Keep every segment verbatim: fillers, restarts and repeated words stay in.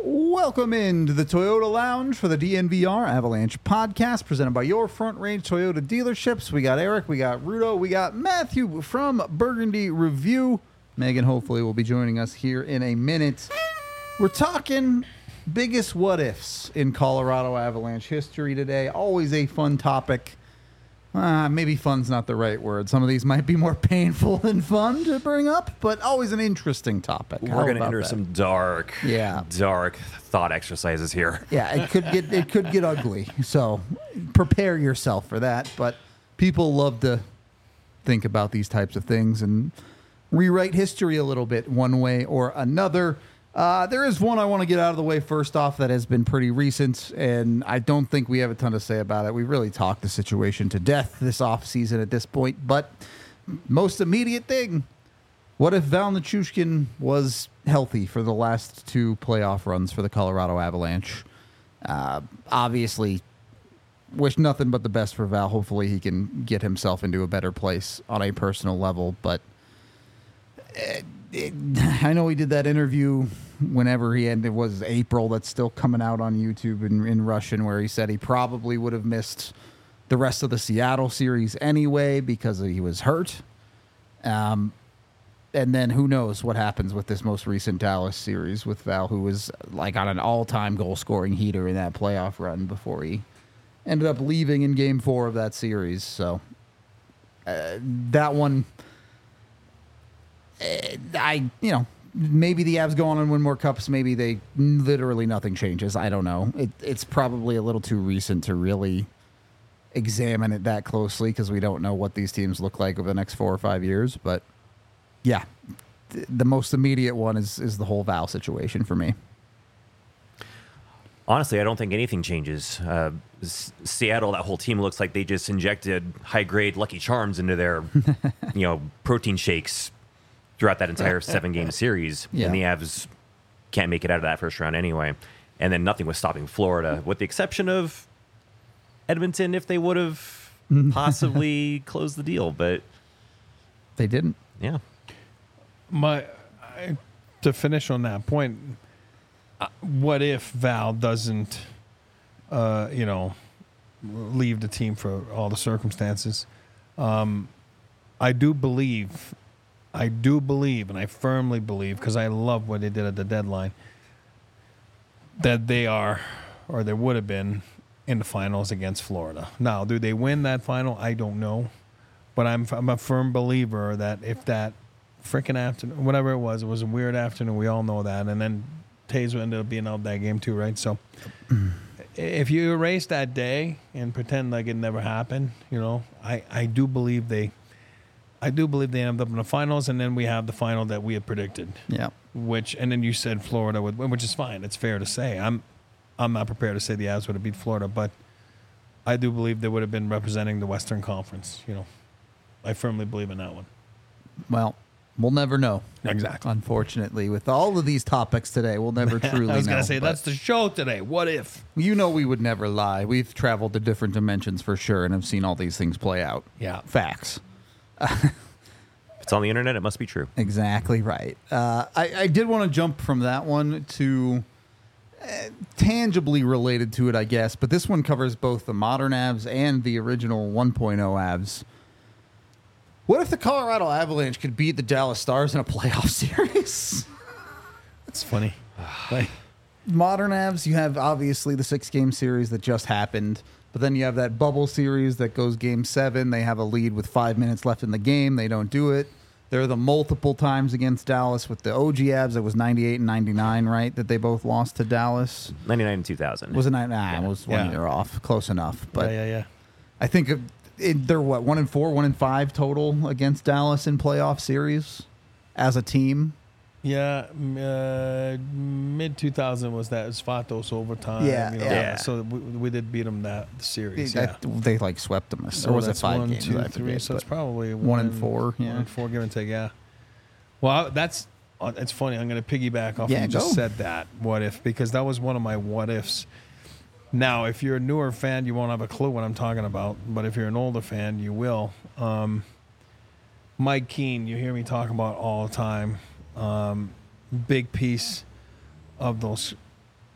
Welcome into the Toyota Lounge for the D N V R Avalanche podcast presented by your Front Range Toyota dealerships. We got Eric, we got Rudo, we got Matthew from Burgundy Review. Megan hopefully will be joining us here in a minute. We're talking biggest what-ifs in Colorado Avalanche history today. Always a fun topic. Uh, maybe fun's not the right word. Some of these might be more painful than fun to bring up, but always an interesting topic. We're How going to about enter that? some dark, Yeah. dark thought exercises here. Yeah, it could get it could get ugly. So prepare yourself for that. But people love to think about these types of things and rewrite history a little bit one way or another. Uh, there is one I want to get out of the way first off that has been pretty recent, and I don't think we have a ton to say about it. We really talked the situation to death this offseason at this point. But most immediate thing, what if Val Nichushkin was healthy for the last two playoff runs for the Colorado Avalanche? Uh, obviously, wish nothing but the best for Val. Hopefully he can get himself into a better place on a personal level. But it, it, I know he did that interview whenever he ended. It was April. That's still coming out on YouTube in, in Russian, where he said he probably would have missed the rest of the Seattle series anyway because he was hurt. Um, And then who knows what happens with this most recent Dallas series with Val, who was like on an all-time goal-scoring heater in that playoff run before he ended up leaving in Game Four of that series. So uh, that one, uh, I you know maybe the Avs go on and win more cups. Maybe they literally nothing changes. I don't know. It, it's probably a little too recent to really examine it that closely because we don't know what these teams look like over the next four or five years, but. Yeah, the most immediate one is is the whole Val situation for me. Honestly, I don't think anything changes. Uh, S- Seattle, that whole team looks like they just injected high-grade Lucky Charms into their, you know, protein shakes throughout that entire seven-game series. Yeah. And the Avs can't make it out of that first round anyway. And then nothing was stopping Florida, with the exception of Edmonton, if they would have possibly closed the deal. But They didn't. yeah. My I, to finish on that point, uh, what if Val doesn't, uh, you know, leave the team for all the circumstances? Um, I do believe, I do believe, and I firmly believe, because I love what they did at the deadline, that they are, or they would have been, in the finals against Florida. Now, do they win that final? I don't know, but I'm I'm a firm believer that if that freaking afternoon, whatever it was, it was a weird afternoon. We all know that. And then Taser ended up being out that game too, right? So if you erase that day and pretend like it never happened, you know, I, I do believe they, I do believe they ended up in the finals, and then we have the final that we had predicted. Yeah. Which, and then you said Florida would win, which is fine. It's fair to say. I'm, I'm not prepared to say the Avs would have beat Florida, but I do believe they would have been representing the Western Conference. You know, I firmly believe in that one. Well, we'll never know. Exactly. Unfortunately, with all of these topics today, we'll never truly know. I was going to say, but that's the show today. What if? You know we would never lie. We've traveled to different dimensions for sure and have seen all these things play out. Yeah. Facts. If it's on the internet, it must be true. Exactly right. Uh, I, I did want to jump from that one to uh, tangibly related to it, I guess, but this one covers both the modern Avs and the original one point oh Avs. What if the Colorado Avalanche could beat the Dallas Stars in a playoff series? That's funny. Like, Modern Avs, you have obviously the six-game series that just happened, but then you have that bubble series that goes game seven. They have a lead with five minutes left in the game. They don't do it. There are the multiple times against Dallas with the O G Avs. It was ninety-eight and ninety-nine, right, that they both lost to Dallas? ninety-nine and two thousand. Was it nine? Nah, Yeah. it was one Yeah. year off. Close enough. But yeah, yeah, yeah. I think it, it, they're, what, one and four, one and five total against Dallas in playoff series as a team? Yeah, m- uh, mid two thousand was that Svatos overtime. Yeah, you know, yeah. So we, we did beat them that series. They, yeah. they, like, swept them. Or So was it that's five one, games? two, I three. forget, So it's but- probably one and four, yeah. One and four, give and take. Yeah. Well, that's uh, it's funny. I'm going to piggyback off. Yeah, you just go. said that. What if? Because that was one of my what ifs. Now, if you're a newer fan, you won't have a clue what I'm talking about. But if you're an older fan, you will. Um, Mike Keane, you hear me talk about all the time. Um, big piece of those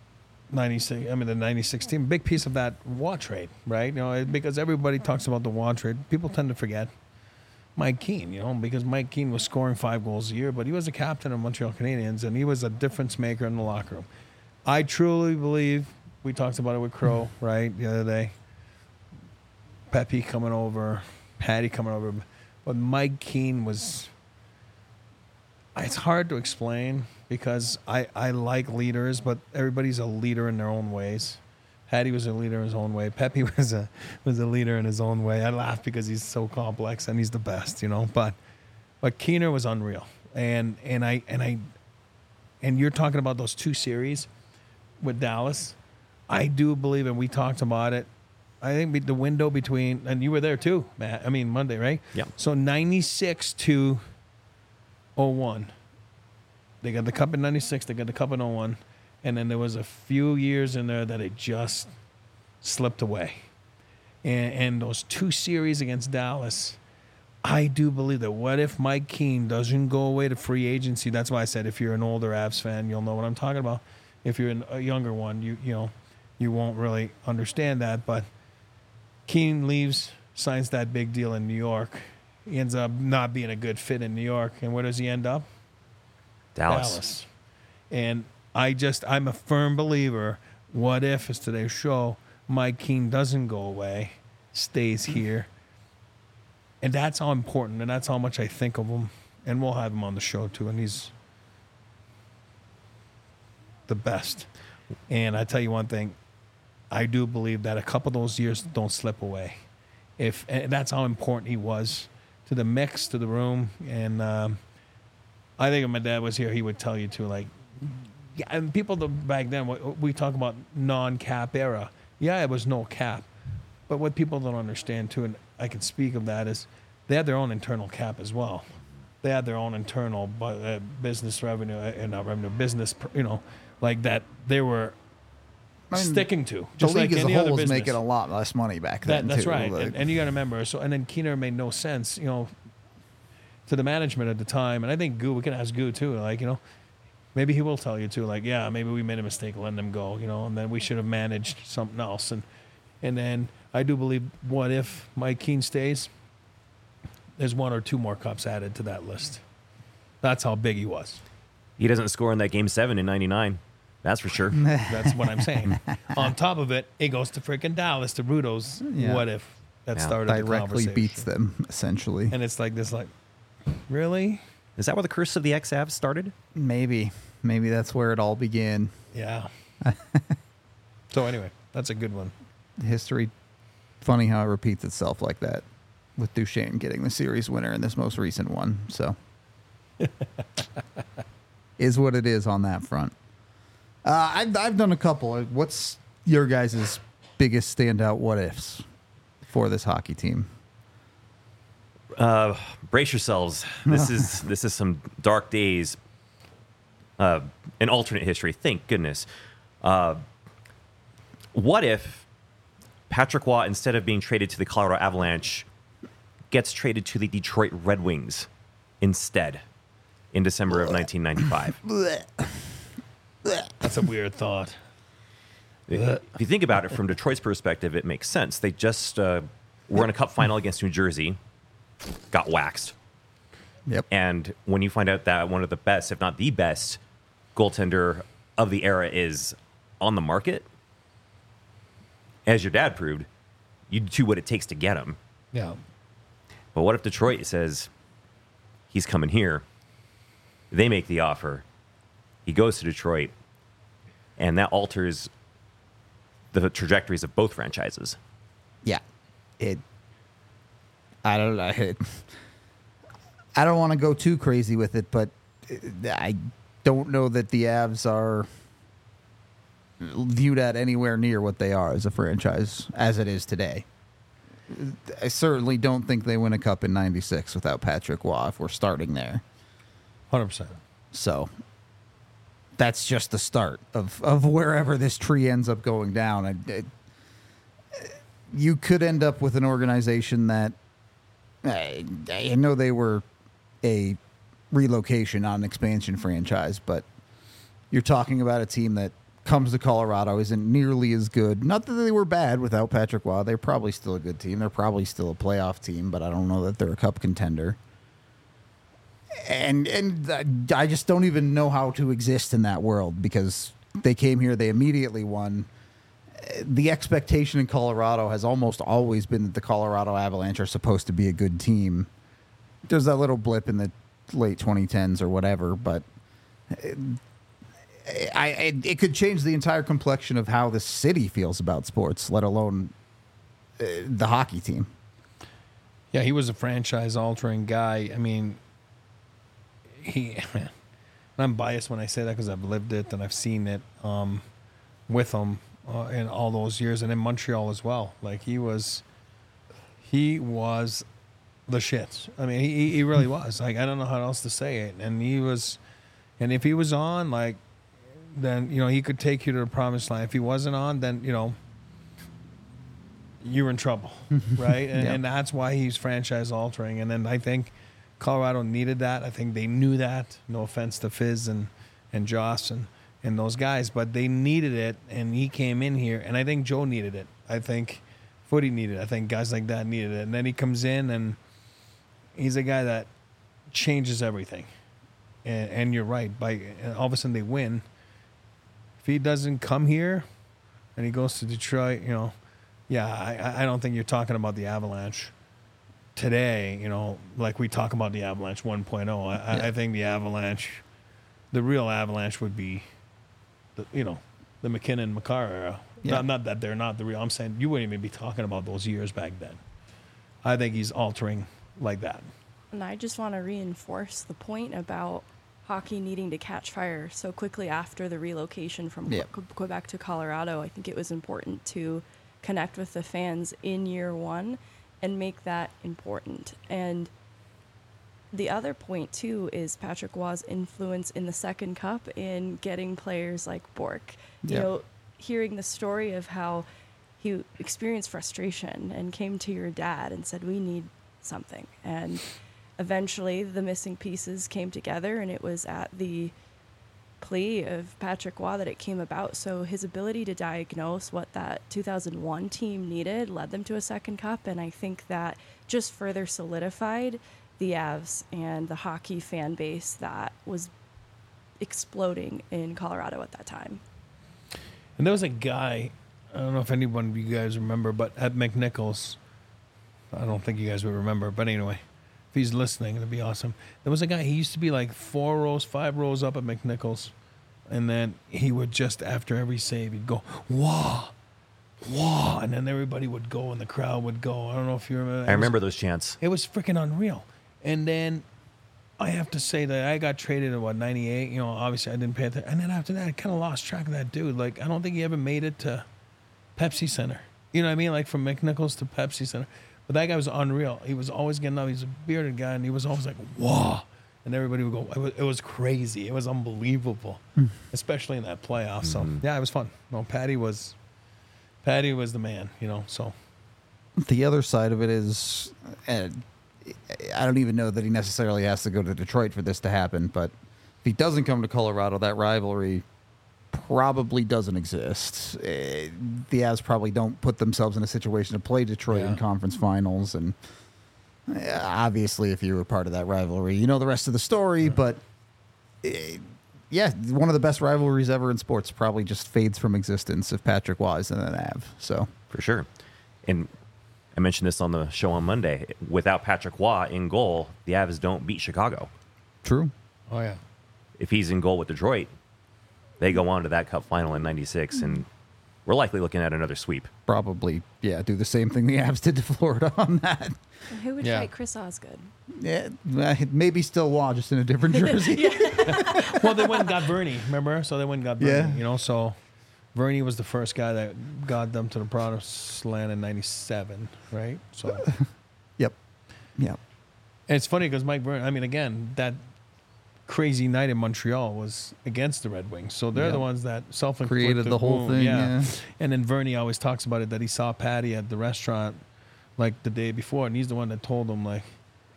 ninety-six. I mean, the ninety-six team. Big piece of that Waugh trade, right? You know, because everybody talks about the Waugh trade. People tend to forget Mike Keane. You know, because Mike Keane was scoring five goals a year, but he was a captain of Montreal Canadiens, and he was a difference maker in the locker room. I truly believe. We talked about it with Crow, right, the other day. Pepe coming over, Patty coming over, but Mike Keane was. It's hard to explain because I, I like leaders, but everybody's a leader in their own ways. Patty was a leader in his own way. Pepe was a was a leader in his own way. I laugh because he's so complex and he's the best, you know. But but Keener was unreal, and and I and I and you're talking about those two series with Dallas. I do believe, and we talked about it. I think the window between, and you were there too, Matt. I mean Monday, right? Yeah. So ninety-six to oh one. They got the cup in ninety-six, they got the cup in oh one, and then there was a few years in there that it just slipped away. And, and those two series against Dallas, I do believe that what if Mike Keane doesn't go away to free agency? That's why I said if you're an older Avs fan, you'll know what I'm talking about. If you're a younger one, you you know, you won't really understand that. But Keane leaves, signs that big deal in New York. He ends up not being a good fit in New York. And where does he end up? Dallas. Dallas. And I just, I'm a firm believer, what if, as today's show, Mike Keane doesn't go away, stays here. And that's how important, and that's how much I think of him. And we'll have him on the show, too. And he's the best. And I tell you one thing, I do believe that a couple of those years don't slip away. If and that's how important he was to the mix, to the room. And um, I think if my dad was here, he would tell you too. Like, yeah, and people back then, we talk about non-cap era. Yeah, it was no cap. But what people don't understand too, and I can speak of that, is they had their own internal cap as well. They had their own internal uh, business revenue, uh, not revenue, business, you know, like that they were I mean, sticking to. Just the league like as any a whole other was business. making a lot less money back That, then, that's too. right. Like, and, and you got to remember, so and then Keener made no sense, you know, to the management at the time. And I think Goo, we can ask Goo too, like, you know, maybe he will tell you too, like, yeah, maybe we made a mistake letting them go, you know, and then we should have managed something else. And and then I do believe, what if Mike Keane stays? There's one or two more cups added to that list. That's how big he was. He doesn't score in that game seven in ninety-nine. That's for sure. That's what I'm saying. On top of it, it goes to freaking Dallas, to Rudo's Yeah. what if that Yeah. started the directly conversation. beats them, essentially. And it's like this, like, really? Is that where the curse of the X-Avs started? Maybe. Maybe that's where it all began. Yeah. So anyway, that's a good one. History, funny how it repeats itself like that, with Duchesne getting the series winner in this most recent one. So, is what it is on that front. Uh, I've, I've done a couple. What's your guys' biggest standout what ifs for this hockey team? Uh, brace yourselves. This is this is some dark days. Uh, an alternate history. Thank goodness. Uh, what if Patrick Waugh, instead of being traded to the Colorado Avalanche, gets traded to the Detroit Red Wings instead in December of nineteen ninety-five? That's a weird thought. If you think about it from Detroit's perspective, it makes sense. They just uh, were in a cup final against New Jersey, got waxed. Yep. And when you find out that one of the best, if not the best, goaltender of the era is on the market, as your dad proved, you do what it takes to get him. Yeah. But what if Detroit says, he's coming here? They make the offer. He goes to Detroit, and that alters the trajectories of both franchises. Yeah. It. I don't know. It, I don't want to go too crazy with it, but I don't know that the Avs are viewed at anywhere near what they are as a franchise as it is today. I certainly don't think they win a cup in ninety-six without Patrick Waugh if we're starting there. one hundred percent. So that's just the start of, of wherever this tree ends up going down. I, I, you could end up with an organization that I, I know they were a relocation, not an expansion franchise, but you're talking about a team that comes to Colorado isn't nearly as good. Not that they were bad without Patrick Waugh. They're probably still a good team. They're probably still a playoff team, but I don't know that they're a cup contender. And and I just don't even know how to exist in that world because they came here, they immediately won. The expectation in Colorado has almost always been that the Colorado Avalanche are supposed to be a good team. There's that little blip in the late twenty tens or whatever, but I, I it could change the entire complexion of how the city feels about sports, let alone uh, the hockey team. Yeah, he was a franchise-altering guy. I mean, he. I'm biased when I say that because I've lived it and I've seen it um, with him uh, in all those years, and in Montreal as well. Like he was, he was the shit. I mean, he he really was. Like I don't know how else to say it. And he was, and if he was on, like, then you know he could take you to the promised land. If he wasn't on, then you know you're in trouble, right? And, Yeah. and that's why he's franchise altering. And then I think Colorado needed that. I think they knew that. No offense to Fizz and, and Joss and, and those guys, but they needed it, and he came in here, and I think Joe needed it. I think Footy needed it. I think guys like that needed it. And then he comes in, and he's a guy that changes everything. And, and you're right. By and all of a sudden they win. If he doesn't come here and he goes to Detroit, you know, yeah, I, I don't think you're talking about the Avalanche today, you know, like we talk about the Avalanche one point oh. I, Yeah. I think the Avalanche, the real Avalanche would be, the, you know, the McKinnon, Makar era. Yeah. Not, not that they're not the real. I'm saying you wouldn't even be talking about those years back then. I think he's altering like that. And I just want to reinforce the point about hockey needing to catch fire so quickly after the relocation from Yeah. Que- Quebec to Colorado. I think it was important to connect with the fans in year one and make that important. And the other point, too, is Patrick Waugh's influence in the second cup in getting players like Bork. You Yeah. know, hearing the story of how he experienced frustration and came to your dad and said, we need something. And eventually the missing pieces came together, and it was at the plea of Patrick Waugh that it came about. So his ability to diagnose what that two thousand one team needed led them to a second cup, and I think that just further solidified the Avs and the hockey fan base that was exploding in Colorado at that time. And there was a guy, I don't know if anyone of you guys remember, but at McNichols, I don't think you guys would remember, but anyway, if he's listening, it'd be awesome. There was a guy, he used to be like four rows, five rows up at McNichols, and then he would just, after every save, he'd go, wah, wah, and then everybody would go and the crowd would go. I don't know if you remember that. I remember those chants. It was freaking unreal. And then I have to say that I got traded in, what, ninety-eight? You know, obviously I didn't pay attention. And then after that, I kind of lost track of that dude. Like, I don't think he ever made it to Pepsi Center. You know what I mean? Like, from McNichols to Pepsi Center. But that guy was unreal. He was always getting up. He's a bearded guy, and he was always like, whoa. And everybody would go, it was, it was crazy. It was unbelievable, especially in that playoff. So, yeah, it was fun. No, Patty was, Patty was the man, you know, so. The other side of it is, uh, I don't even know that he necessarily has to go to Detroit for this to happen, but if he doesn't come to Colorado, that rivalry probably doesn't exist. Uh, the Avs probably don't put themselves in a situation to play Detroit Yeah. in conference finals, and uh, obviously if you were part of that rivalry, you know the rest of the story, but uh, yeah, one of the best rivalries ever in sports probably just fades from existence if Patrick Waugh is in an Av, so. For sure. And I mentioned this on the show on Monday. Without Patrick Waugh in goal, the Avs don't beat Chicago. True. Oh, yeah. If he's in goal with Detroit, they go on to that cup final in ninety-six, and we're likely looking at another sweep. Probably, yeah, do the same thing the Avs did to Florida on that. And who would Yeah. fight Chris Osgood? Yeah, uh, maybe still Waugh, just in a different jersey. Well, they went and got Bernie, remember? So they went and got Bernie, Yeah. you know, so Bernie was the first guy that got them to the promised land in ninety-seven, right? So Yep. Yep. and it's funny because Mike Bernie, I mean, again, that crazy night in Montreal was against the Red Wings. So they're Yep. the ones that self-inflicted Created the whole wound. thing, yeah. And then Vernie always talks about it, that he saw Patty at the restaurant like the day before, and he's the one that told him, like,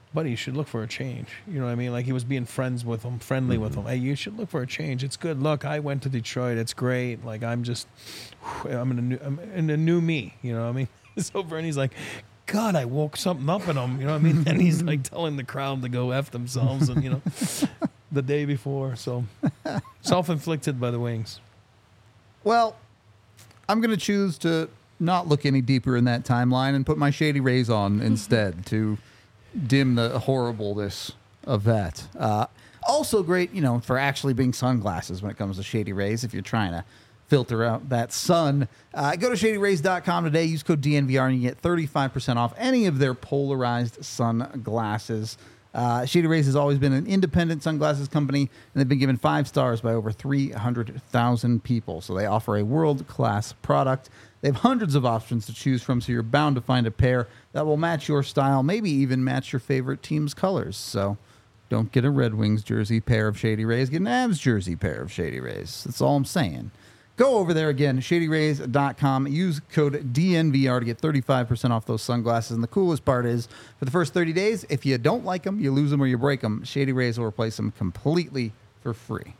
buddy, you should look for a change. You know what I mean? Like he was being friends with him, friendly mm-hmm. with him. Hey, you should look for a change. It's good. Look, I went to Detroit. It's great. Like I'm just, I'm in a new, I'm in a new me. You know what I mean? It's over, and he's like, God, I woke something up in him. You know what I mean? And he's like telling the crowd to go F themselves, and you know, the day before. So self-inflicted by the Wings. Well, I'm going to choose to not look any deeper in that timeline and put my Shady Rays on instead to dim the horribleness of that. Uh, also great, you know, for actually being sunglasses when it comes to Shady Rays if you're trying to filter out that sun. Uh, go to shady rays dot com today. Use code D N V R and you get thirty-five percent off any of their polarized sunglasses. Uh, Shady Rays has always been an independent sunglasses company, and they've been given five stars by over three hundred thousand people. So they offer a world-class product. They have hundreds of options to choose from, so you're bound to find a pair that will match your style, maybe even match your favorite team's colors. So don't get a Red Wings jersey pair of Shady Rays. Get an Avs jersey pair of Shady Rays. That's all I'm saying. Go over there again, shady rays dot com. Use code D N V R to get thirty-five percent off those sunglasses. And the coolest part is, for the first thirty days, if you don't like them, you lose them or you break them, Shady Rays will replace them completely for free.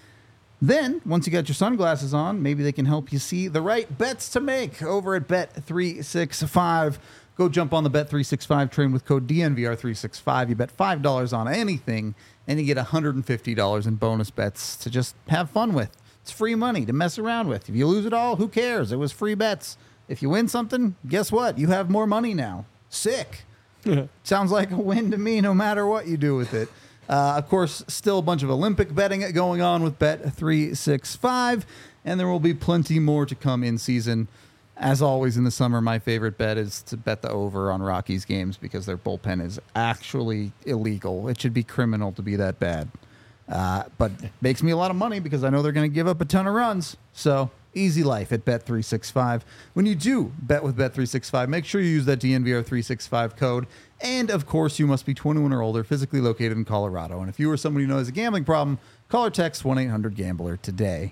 Then, once you got your sunglasses on, maybe they can help you see the right bets to make over at Bet three sixty-five. Go jump on the Bet three sixty-five train with code D N V R three sixty-five. You bet five dollars on anything, and you get one hundred fifty dollars in bonus bets to just have fun with. It's free money to mess around with. If you lose it all, who cares? It was free bets. If you win something, guess what? You have more money now. Sick. Sounds like a win to me no matter what you do with it. Uh, of course, still a bunch of Olympic betting going on with Bet three sixty-five, and there will be plenty more to come in season. As always in the summer, my favorite bet is to bet the over on Rockies games because their bullpen is actually illegal. It should be criminal to be that bad. Uh, but it makes me a lot of money because I know they're going to give up a ton of runs. So easy life at Bet three sixty-five. When you do bet with Bet three sixty-five, make sure you use that D N V R three sixty-five code. And, of course, you must be twenty-one or older, physically located in Colorado. And if you or somebody who knows a gambling problem, call or text one eight hundred gambler today.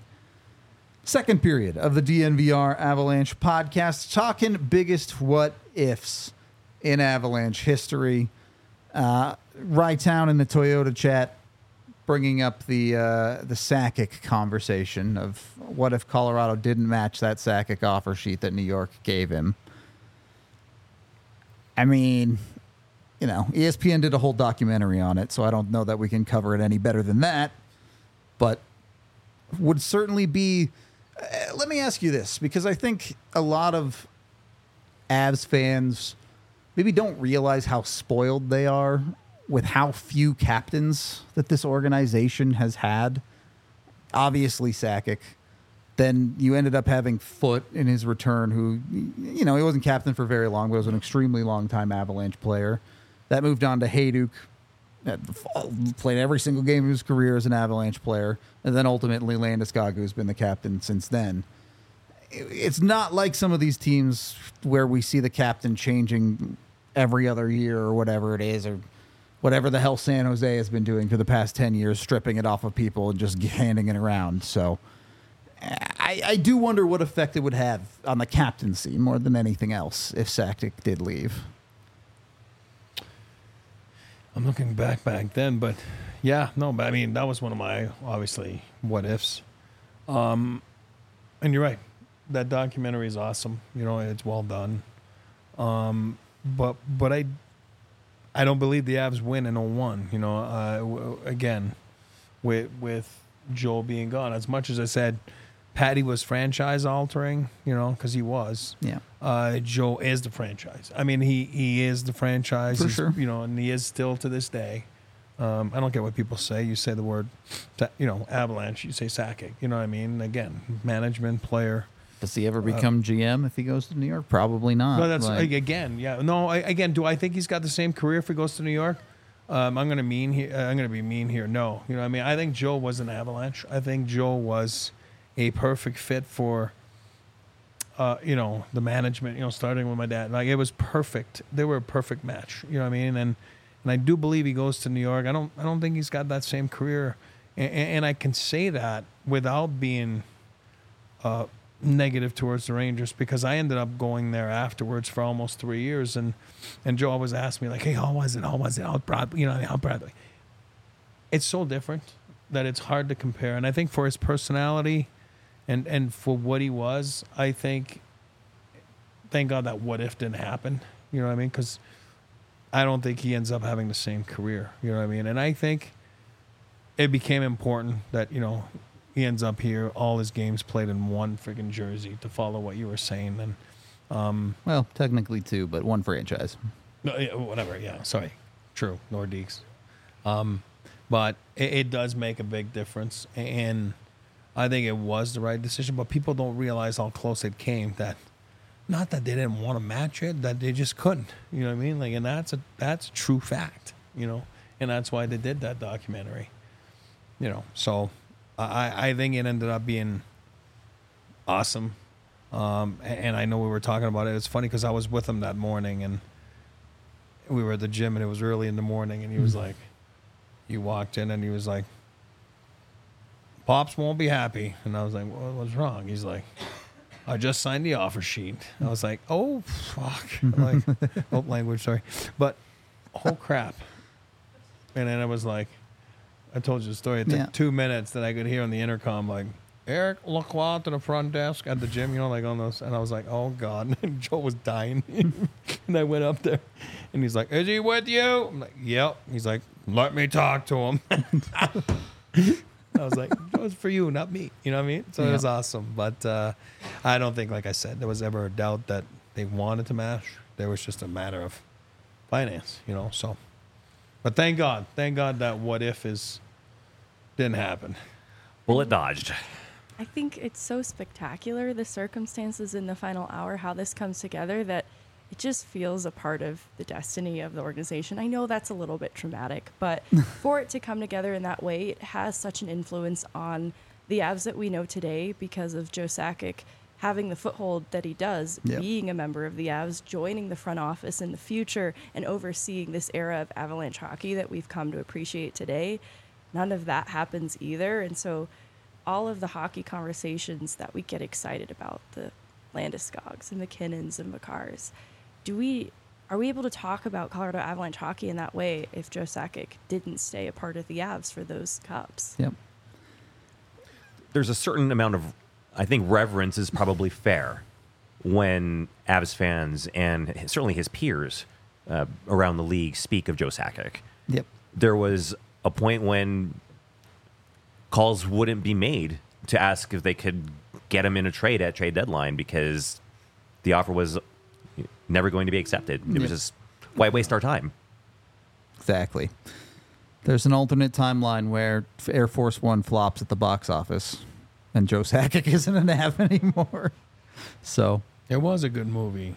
Second period of the D N V R Avalanche podcast, talking biggest what-ifs in Avalanche history. Uh, Rytown in the Toyota chat bringing up the uh, the Sakic conversation of what if Colorado didn't match that Sakic offer sheet that New York gave him. I mean, you know, E S P N did a whole documentary on it, so I don't know that we can cover it any better than that. But would certainly be... Uh, let me ask you this, because I think a lot of Avs fans maybe don't realize how spoiled they are with how few captains that this organization has had. Obviously Sakic. Then you ended up having Foote in his return, who, you know, he wasn't captain for very long, but was an extremely long-time Avalanche player. That moved on to Hayduk, played every single game of his career as an Avalanche player, and then ultimately Landeskog, who's been the captain since then. It's not like some of these teams where we see the captain changing every other year or whatever it is, or whatever the hell San Jose has been doing for the past ten years, stripping it off of people and just handing it around. So I, I do wonder what effect it would have on the captaincy more than anything else if Sakic did leave. I'm looking back back then, but yeah, no, but I mean, that was one of my, obviously, what ifs. Um, and you're right. That documentary is awesome. You know, it's well done. Um, but but I I don't believe the Avs win in oh one. You know, uh, w- again, with with Joel being gone. As much as I said, Patty was franchise altering, you know, because he was. Yeah. Uh, Joe is the franchise. I mean, he, he is the franchise. For He's, sure. You know, and he is still to this day. Um, I don't get what people say. You say the word, you know, Avalanche, you say Sakic. You know what I mean? Again, management, player. Does he ever become G M if he goes to New York? Probably not. No, that's Like, again, yeah. No, I, again, do I think he's got the same career if he goes to New York? Um, I'm gonna mean here. Uh, I'm gonna be mean here. No, you know what I mean. I think Joe was an Avalanche. I think Joe was a perfect fit for, uh, you know, the management. You know, starting with my dad, like it was perfect. They were a perfect match. You know what I mean? And and I do believe he goes to New York. I don't. I don't think he's got that same career, and, and I can say that without being, uh, negative towards the Rangers because I ended up going there afterwards for almost three years, and and Joe always asked me like, "Hey, how was it? How was it? How proud? You know, how proud?" It's so different that it's hard to compare, and I think for his personality, and and for what he was, I think, thank God that what if didn't happen. You know what I mean? Because I don't think he ends up having the same career. You know what I mean? And I think it became important that, you know, he ends up here, all his games played in one freaking jersey, to follow what you were saying. And um, Well, technically two, but one franchise. no, yeah, whatever. Yeah, sorry. True. Nordiques. Um, but it, it does make a big difference. And I think it was the right decision. But people don't realize how close it came. That not that they didn't want to match it, that they just couldn't. You know what I mean? Like, and that's a that's a true fact. You know, and that's why they did that documentary. You know, so I I think it ended up being awesome. Um, and I know we were talking about it. It's funny because I was with him that morning, and we were at the gym, and it was early in the morning, and he was like, he walked in, and he was like, "Pops won't be happy." And I was like, well, "What's wrong?" He's like, "I just signed the offer sheet." I was like, "Oh, fuck." Like, oh, language, sorry. But, oh, crap. And then I was like, I told you the story. It took Yeah. two minutes that I could hear on the intercom, like, "Eric Lacroix to the front desk at the gym," you know, like on those. And I was like, "Oh, God." And Joe was dying. And I went up there, and he's like, "Is he with you?" I'm like, "Yep." He's like, "Let me talk to him." I was like, "It was for you, not me." You know what I mean? So Yeah. it was awesome. But uh, I don't think, like I said, there was ever a doubt that they wanted to match. There was just a matter of finance, you know. So, but thank God, thank God that what if is didn't happen. Bullet dodged. I think it's so spectacular, the circumstances in the final hour, how this comes together, that it just feels a part of the destiny of the organization. I know that's a little bit traumatic, but for it to come together in that way, it has such an influence on the Avs that we know today because of Joe Sakic having the foothold that he does, Yep. being a member of the Avs, joining the front office in the future, and overseeing this era of Avalanche hockey that we've come to appreciate today. None of that happens either. And so all of the hockey conversations that we get excited about, the Landeskog's and McKinnons and Makars, do we are we able to talk about Colorado Avalanche hockey in that way if Joe Sakic didn't stay a part of the Avs for those cups? Yep. There's a certain amount of, I think, reverence is probably fair when Avs fans and certainly his peers uh, around the league speak of Joe Sakic. Yep. There was a point when calls wouldn't be made to ask if they could get him in a trade at trade deadline because the offer was never going to be accepted. It was Yep. just, why waste our time? Exactly. There's an alternate timeline where Air Force One flops at the box office, and Joe Sakic isn't an Av anymore. So It was a good movie.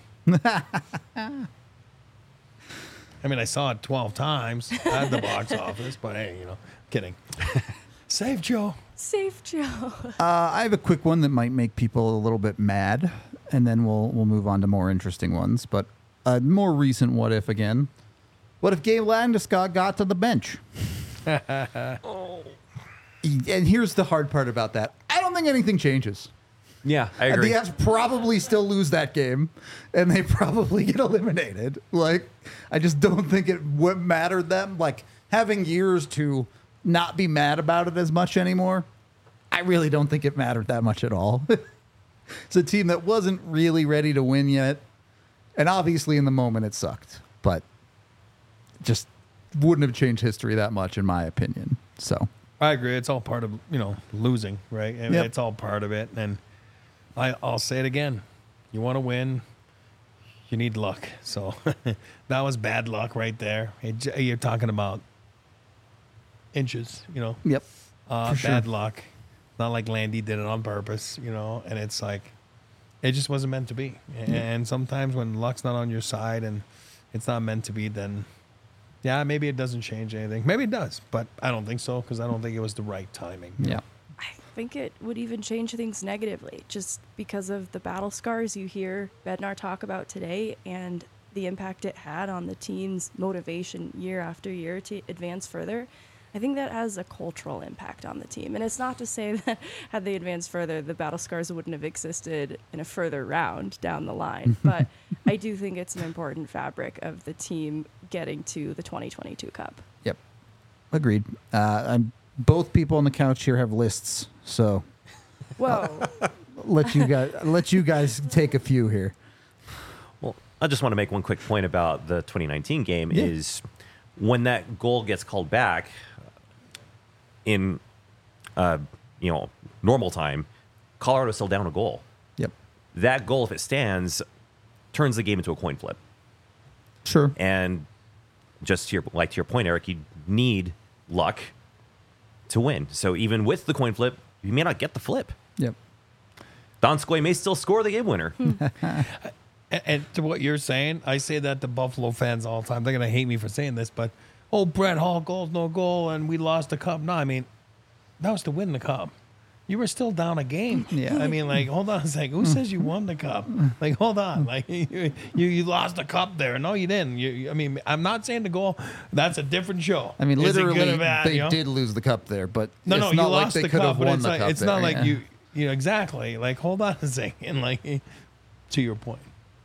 I mean, I saw it twelve times at the box office, but hey, you know, kidding. Save Joe. Save Joe. uh, I have a quick one that might make people a little bit mad, and then we'll we'll move on to more interesting ones. But a more recent what if again. What if Gabe Landeskog got to the bench? And here's the hard part about that. I don't think anything changes. Yeah, I And agree. the Avs probably still lose that game, and they probably get eliminated. Like, I just don't think it would matter them. Like, having years to not be mad about it as much anymore, I really don't think it mattered that much at all. It's a team that wasn't really ready to win yet, and obviously in the moment it sucked, but just wouldn't have changed history that much, in my opinion. So, I agree. It's all part of, you know, losing, right? I mean, Yep. it's all part of it. And I, I'll say it again. You want to win, you need luck. So that was bad luck right there. It, you're talking about inches, you know. yep. Uh, For sure. bad luck. Not like Landy did it on purpose, you know. And it's like, it just wasn't meant to be. And sometimes when luck's not on your side and it's not meant to be, then yeah, maybe it doesn't change anything. Maybe it does, but I don't think so because I don't think it was the right timing. Yeah. I think it would even change things negatively just because of the battle scars you hear Bednar talk about today and the impact it had on the team's motivation year after year to advance further. I think that has a cultural impact on the team. And it's not to say that had they advanced further, the Battle Scars wouldn't have existed in a further round down the line. But I do think it's an important fabric of the team getting to the twenty twenty-two Cup. Yep. Agreed. Uh, I'm, both people on the couch here have lists, so Whoa. let you guys let you guys take a few here. Well, I just want to make one quick point about the twenty nineteen game Yeah. is when that goal gets called back in, uh, you know, normal time, Colorado's still down a goal. Yep. That goal, if it stands, turns the game into a coin flip. Sure. And just to your, like to your point, Eric, you need luck to win. So even with the coin flip, you may not get the flip. Yep. Donskoy may still score the game winner. And, and to what you're saying, I say that to Buffalo fans all the time. They're going to hate me for saying this, but, oh, Brett Hall, goals, no goal, and we lost the cup. No, I mean, that was to win the cup. You were still down a game. Yeah. I mean, like, hold on a second. Who says you won the cup? Like, hold on. Like, you you, you lost the cup there. No, you didn't. You, you- I mean, I'm not saying the goal. That's a different show. I mean, Is it literally, good or bad, they you know? did lose the cup there, but No, it's no, you not like lost they the could cup, have but won it's the like, cup it's there, not like yeah. you, you know, exactly. Like, hold on a second. Like, to your point,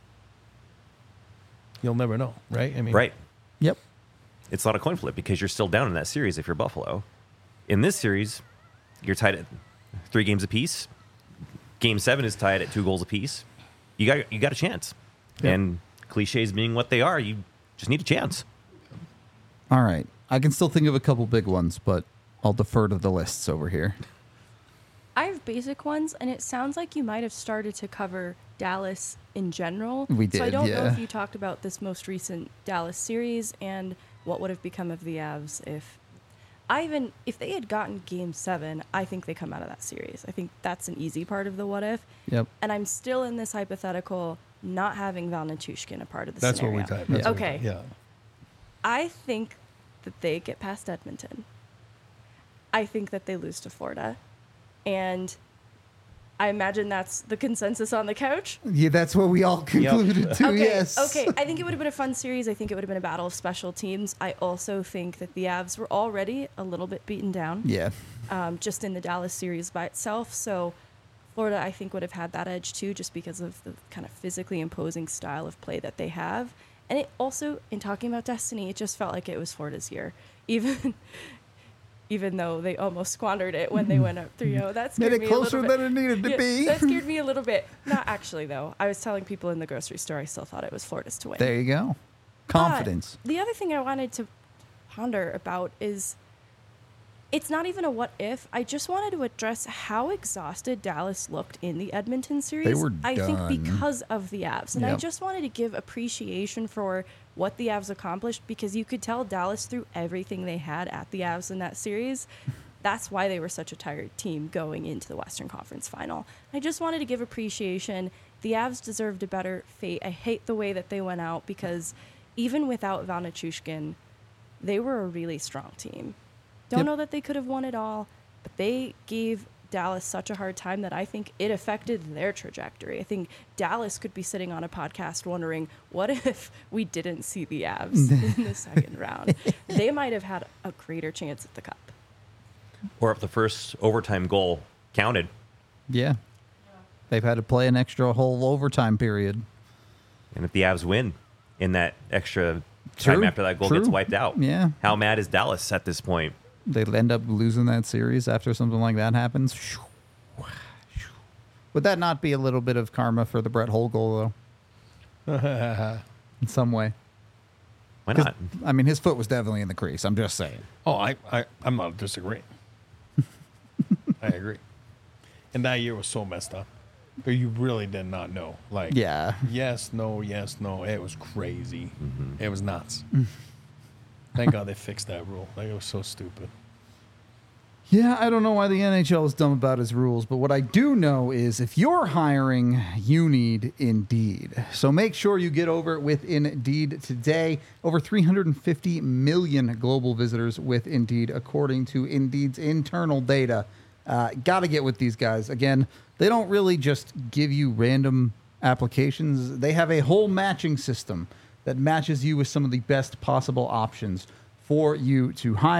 you'll never know, right? I mean, Right. Yep. It's not a coin flip because you're still down in that series if you're Buffalo. In this series, you're tied at three games apiece. Game seven is tied at two goals apiece. You got you got a chance. Yeah. And cliches being what they are, you just need a chance. All right. I can still think of a couple big ones, but I'll defer to the lists over here. I have basic ones, and it sounds like you might have started to cover Dallas in general. We So I did, don't know yeah. if you talked about this most recent Dallas series and what would have become of the Avs if I even if they had gotten Game Seven. I think they come out of that series. I think that's an easy part of the what if. Yep. And I'm still in this hypothetical, not having Val Nichushkin a part of the That's scenario. what we typed. That's what we Okay. typed, Yeah. I think that they get past Edmonton. I think that they lose to Florida. And I imagine that's the consensus on the couch. Yeah, that's what we all concluded to, Okay, yes. okay. I think it would have been a fun series. I think it would have been a battle of special teams. I also think that the Avs were already a little bit beaten down, Yeah. um, just in the Dallas series by itself. So Florida, I think, would have had that edge too, just because of the kind of physically imposing style of play that they have. And it also, in talking about destiny, it just felt like it was Florida's year, even even though they almost squandered it when they went up three oh. That scared Made it me a closer little bit. than it needed to Yeah, be. That scared me a little bit. Not actually, though. I was telling people in the grocery store I still thought it was Florida's to win. There you go. Confidence. But the other thing I wanted to ponder about is it's not even a what if. I just wanted to address how exhausted Dallas looked in the Edmonton series. were I think done. because of the Avs. And I Yep. just wanted to give appreciation for what the Avs accomplished because you could tell Dallas threw everything they had at the Avs in that series. That's why they were such a tired team going into the Western Conference Final. I just wanted to give appreciation. The Avs deserved a better fate. I hate the way that they went out because even without Val Nichushkin, they were a really strong team. Don't Yep. know that they could have won it all, but they gave Dallas such a hard time that I think it affected their trajectory. I think Dallas could be sitting on a podcast wondering, what if we didn't see the Avs in the second round? They might have had a greater chance at the Cup. Or if the first overtime goal counted. Yeah. They've had to play an extra whole overtime period. And if the Avs win in that extra time True, after that goal true. gets wiped out. Yeah. How mad is Dallas at this point? They end up losing that series after something like that happens. Would that not be a little bit of karma for the Brett Hull goal, though? In some way. Why 'Cause, not? I mean, his foot was definitely in the crease. I'm just saying. Oh, I, I, I'm not disagreeing. I agree. And that year was so messed up. But you really did not know. Like, Yeah. yes, no, yes, no. It was crazy. It was nuts. Thank God they fixed that rule. Like, it was so stupid. Yeah, I don't know why the N H L is dumb about its rules, but what I do know is if you're hiring, you need Indeed. So make sure you get over with Indeed today. Over three hundred fifty million global visitors with Indeed, according to Indeed's internal data. Uh, Got to get with these guys. Again, they don't really just give you random applications. They have a whole matching system that matches you with some of the best possible options for you to hire.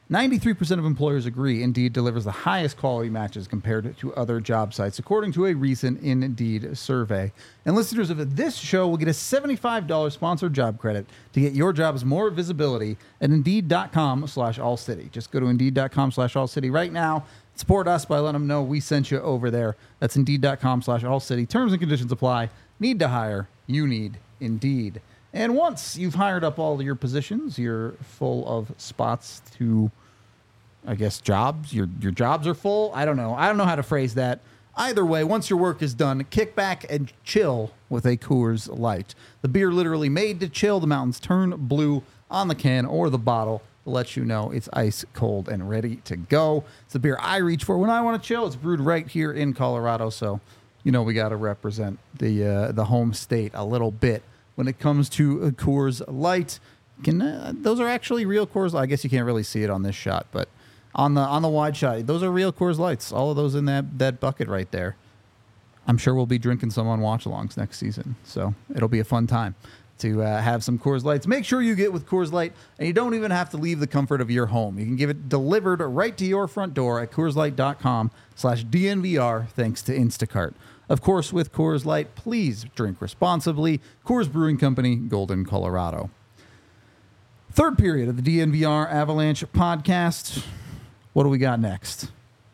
ninety-three percent of employers agree Indeed delivers the highest quality matches compared to other job sites, according to a recent Indeed survey. And listeners of this show will get a seventy-five dollars sponsored job credit to get your jobs more visibility at Indeed.com slash All City. Just go to Indeed.com slash All City right now. Support us by letting them know we sent you over there. That's Indeed.com slash All City. Terms and conditions apply. Need to hire. You need Indeed. And once you've hired up all of your positions, you're full of spots to, I guess, jobs. Your your jobs are full. I don't know. I don't know how to phrase that. Either way, once your work is done, kick back and chill with a Coors Light. The beer literally made to chill. The mountains turn blue on the can or the bottle to let you know it's ice cold and ready to go. It's the beer I reach for when I want to chill. It's brewed right here in Colorado, so you know we got to represent the uh, the home state a little bit. When it comes to uh, Coors Light, can uh, those are actually real Coors? I guess you can't really see it on this shot, but on the on the wide shot, those are real Coors Lights. All of those in that that bucket right there. I'm sure we'll be drinking some on watch-alongs next season, so it'll be a fun time to uh, have some Coors Lights. Make sure you get with Coors Light, and you don't even have to leave the comfort of your home. You can give it delivered right to your front door at CoorsLight.com slash DNVR, thanks to Instacart. Of course, with Coors Light, please drink responsibly. Coors Brewing Company, Golden, Colorado. Third period of the D N V R Avalanche podcast. What do we got next?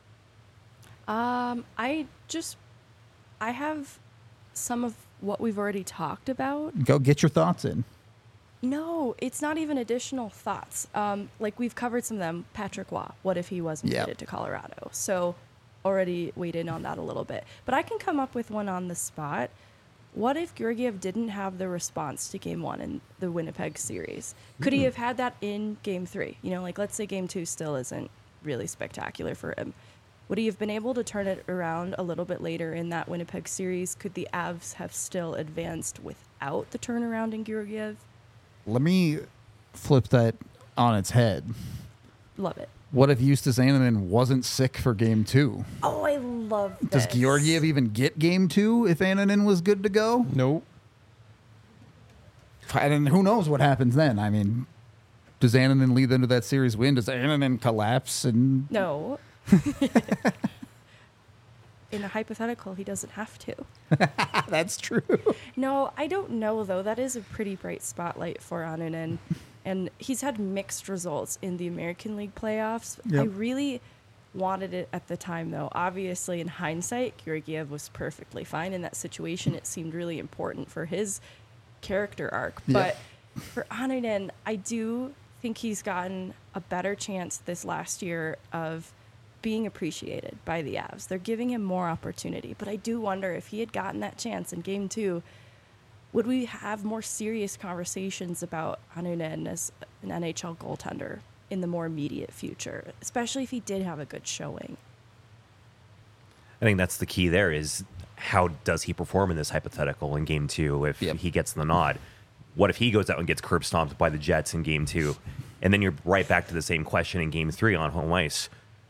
Um, I just, I have some of what we've already talked about. Go get your thoughts in. No, it's not even additional thoughts. Um, like we've covered some of them. Patrick Waugh, what if he wasn't Yep. traded to Colorado? So already weighed in on that a little bit. But I can come up with one on the spot. What if Georgiev didn't have the response to game one in the Winnipeg series? Could he have had that in game three? You know, like let's say game two still isn't really spectacular for him. Would he have been able to turn it around a little bit later in that Winnipeg series? Could the Avs have still advanced without the turnaround in Georgiev? Let me flip that on its head. Love it. What if Justus Annunen wasn't sick for game two? Oh, I love this. Does Georgiev even get game two if Annunen was good to go? Nope. And who knows what happens then? I mean, does Annunen lead them to that series win? Does Annunen collapse? And No. In a hypothetical, he doesn't have to. that's true. No, I don't know, though. That is a pretty bright spotlight for Annunen. And he's had mixed results in the American League playoffs. Yep. I really wanted it at the time, though. Obviously, in hindsight, Georgiev was perfectly fine in that situation. It seemed really important for his character arc. Yep. But for Annunen, I do think he's gotten a better chance this last year of being appreciated by the Avs. They're giving him more opportunity. But I do wonder if he had gotten that chance in game two, would we have more serious conversations about Annunen as an N H L goaltender in the more immediate future, especially if he did have a good showing? I think that's the key there is how does he perform in this hypothetical in game two if Yep. he gets the nod? What if he goes out and gets curb stomped by the Jets in game two? And then you're right back to the same question in game three on home ice.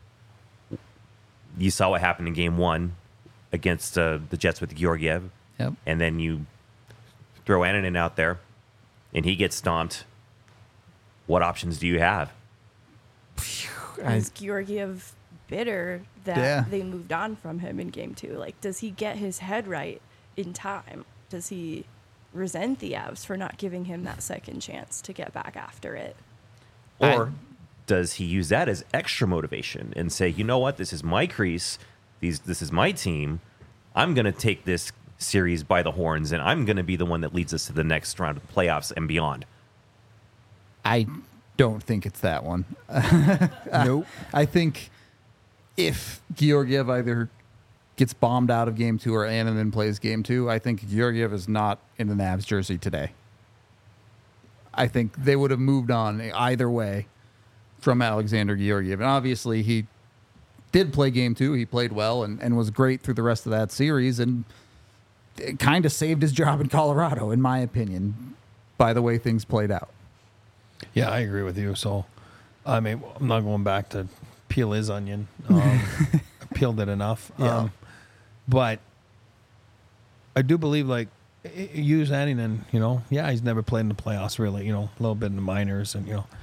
You saw what happened in game one against uh, the Jets with Georgiev. Yep. And then you throw Annunen out there and he gets stomped. What options do you have? I- Is Georgiev bitter that Yeah. they moved on from him in game two? Like, does he get his head right in time? Does he resent the Avs for not giving him that second chance to get back after it? Or I- does he use that as extra motivation and say, you know what, this is my crease, these this is my team, I'm going to take this series by the horns, and I'm going to be the one that leads us to the next round of the playoffs and beyond? I don't think it's that one. Nope. I think if Georgiev either gets bombed out of game two or Annunen plays game two, I think Georgiev is not in the Avs jersey today. I think they would have moved on either way from Alexander Georgiev. And obviously he did play game two. He played well and, and was great through the rest of that series and it kind of saved his job in Colorado, in my opinion, by the way things played out. Yeah, I agree with you. So, I mean, I'm not going back to peel his onion. Um, I peeled it enough. Yeah. Um, but I do believe, like, i- use Annunen, you know, yeah, he's never played in the playoffs, really, you know, a little bit in the minors and, you know,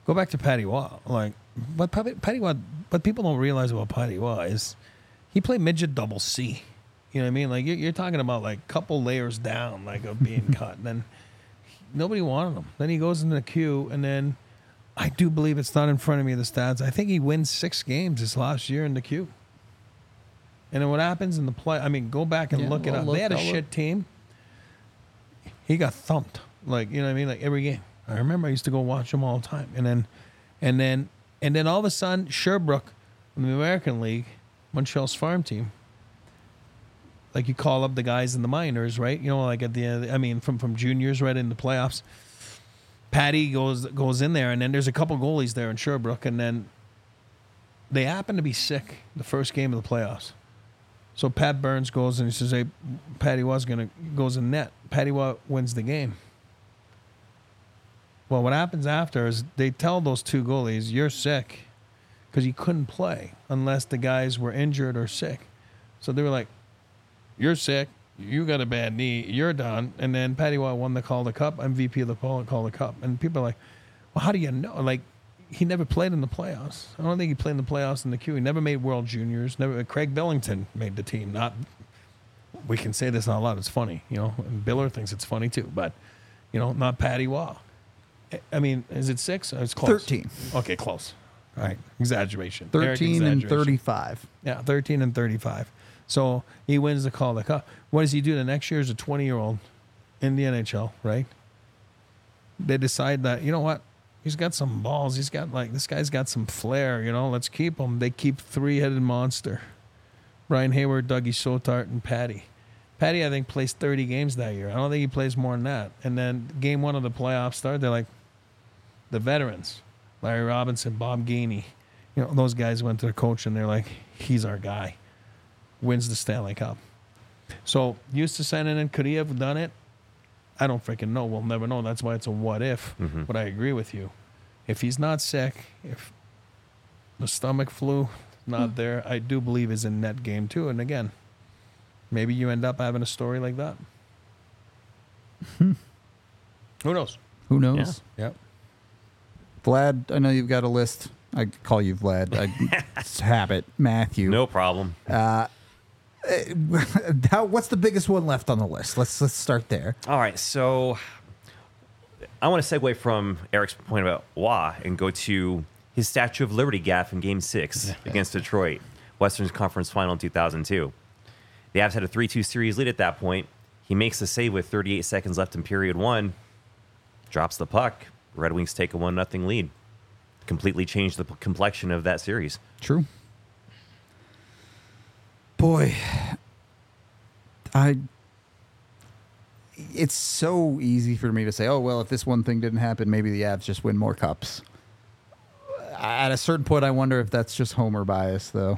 Go back to Patty Waugh. Like, what Patty Patty Waugh, what people don't realize about Patty Waugh is he played midget double C. You know what I mean? Like, you're, you're talking about like a couple layers down, like of being cut. And then nobody wanted him. Then he goes into the queue, and then I do believe it's not in front of me the stats. I think he wins six games this last year in the queue. And then what happens in the play? I mean, go back and Yeah, look it well, up. look, They had a I'll shit look. team. He got thumped. Like, you know what I mean? Like every game. I remember I used to go watch him all the time. And then, and then, and then all of a sudden, Sherbrooke from the American League, Montreal's farm team. Like you call up the guys in the minors, right? You know, like at the end, I mean, from, from juniors right into playoffs. Patty goes goes in there, and then there's a couple goalies there in Sherbrooke, and then they happen to be sick the first game of the playoffs. So Pat Burns goes and he says, "Hey, Patty Waugh's gonna goes in net." Patty Waugh wins the game. Well, what happens after is they tell those two goalies, "You're sick," because you couldn't play unless the guys were injured or sick. So they were like, "You're sick. You got a bad knee. You're done." And then Patty Waugh won the Calder Cup, M V P of the Calder Cup. And people are like, "Well, how do you know?" Like, he never played in the playoffs. I don't think he played in the playoffs in the queue. He never made World Juniors. Never. Craig Billington made the team. Not. We can say this out loud. It's funny, you know. And Biller thinks it's funny too, but you know, not Patty Waugh. I mean, is it six? It's close. Thirteen. Okay, close. All right, exaggeration. Eric, Thirteen and exaggeration. thirty-five. Yeah, thirteen and thirty-five. So he wins the Calder Cup. What does he do the next year as a twenty-year-old in the N H L, right? They decide that, you know what? He's got some balls. He's got, like, this guy's got some flair, you know? Let's keep him. They keep three-headed monster. Brian Hayward, Dougie Sotart, and Patty. Patty, I think, plays thirty games that year. I don't think he plays more than that. And then game one of the playoffs start, they're like, the veterans, Larry Robinson, Bob Gainey. You know, those guys went to the coach, and they're like, he's our guy. Wins the Stanley Cup. So, Eustace Saarinen, could he have done it? I don't freaking know. We'll never know. That's why it's a what if. Mhm. But I agree with you. If he's not sick, if the stomach flu not there, I do believe is in net game too. And again, maybe you end up having a story like that. Who knows? Who knows? Yep. Vlad, I know you've got a list. I call you Vlad. I, it's habit. Matthew. No problem. Uh, how, what's the biggest one left on the list? Let's let's start there. All right, so I want to segue from Eric's point about Waugh and go to his Statue of Liberty gaffe in Game Six against Detroit, Western Conference Final in two thousand two. The Avs had a three two series lead at that point. He makes the save with thirty-eight seconds left in period one, drops the puck. Red Wings take a one nothing lead. Completely changed the complexion of that series. True. Boy, I. It's so easy for me to say, oh, well, if this one thing didn't happen, maybe the Avs just win more cups. At a certain point, I wonder if that's just Homer bias, though.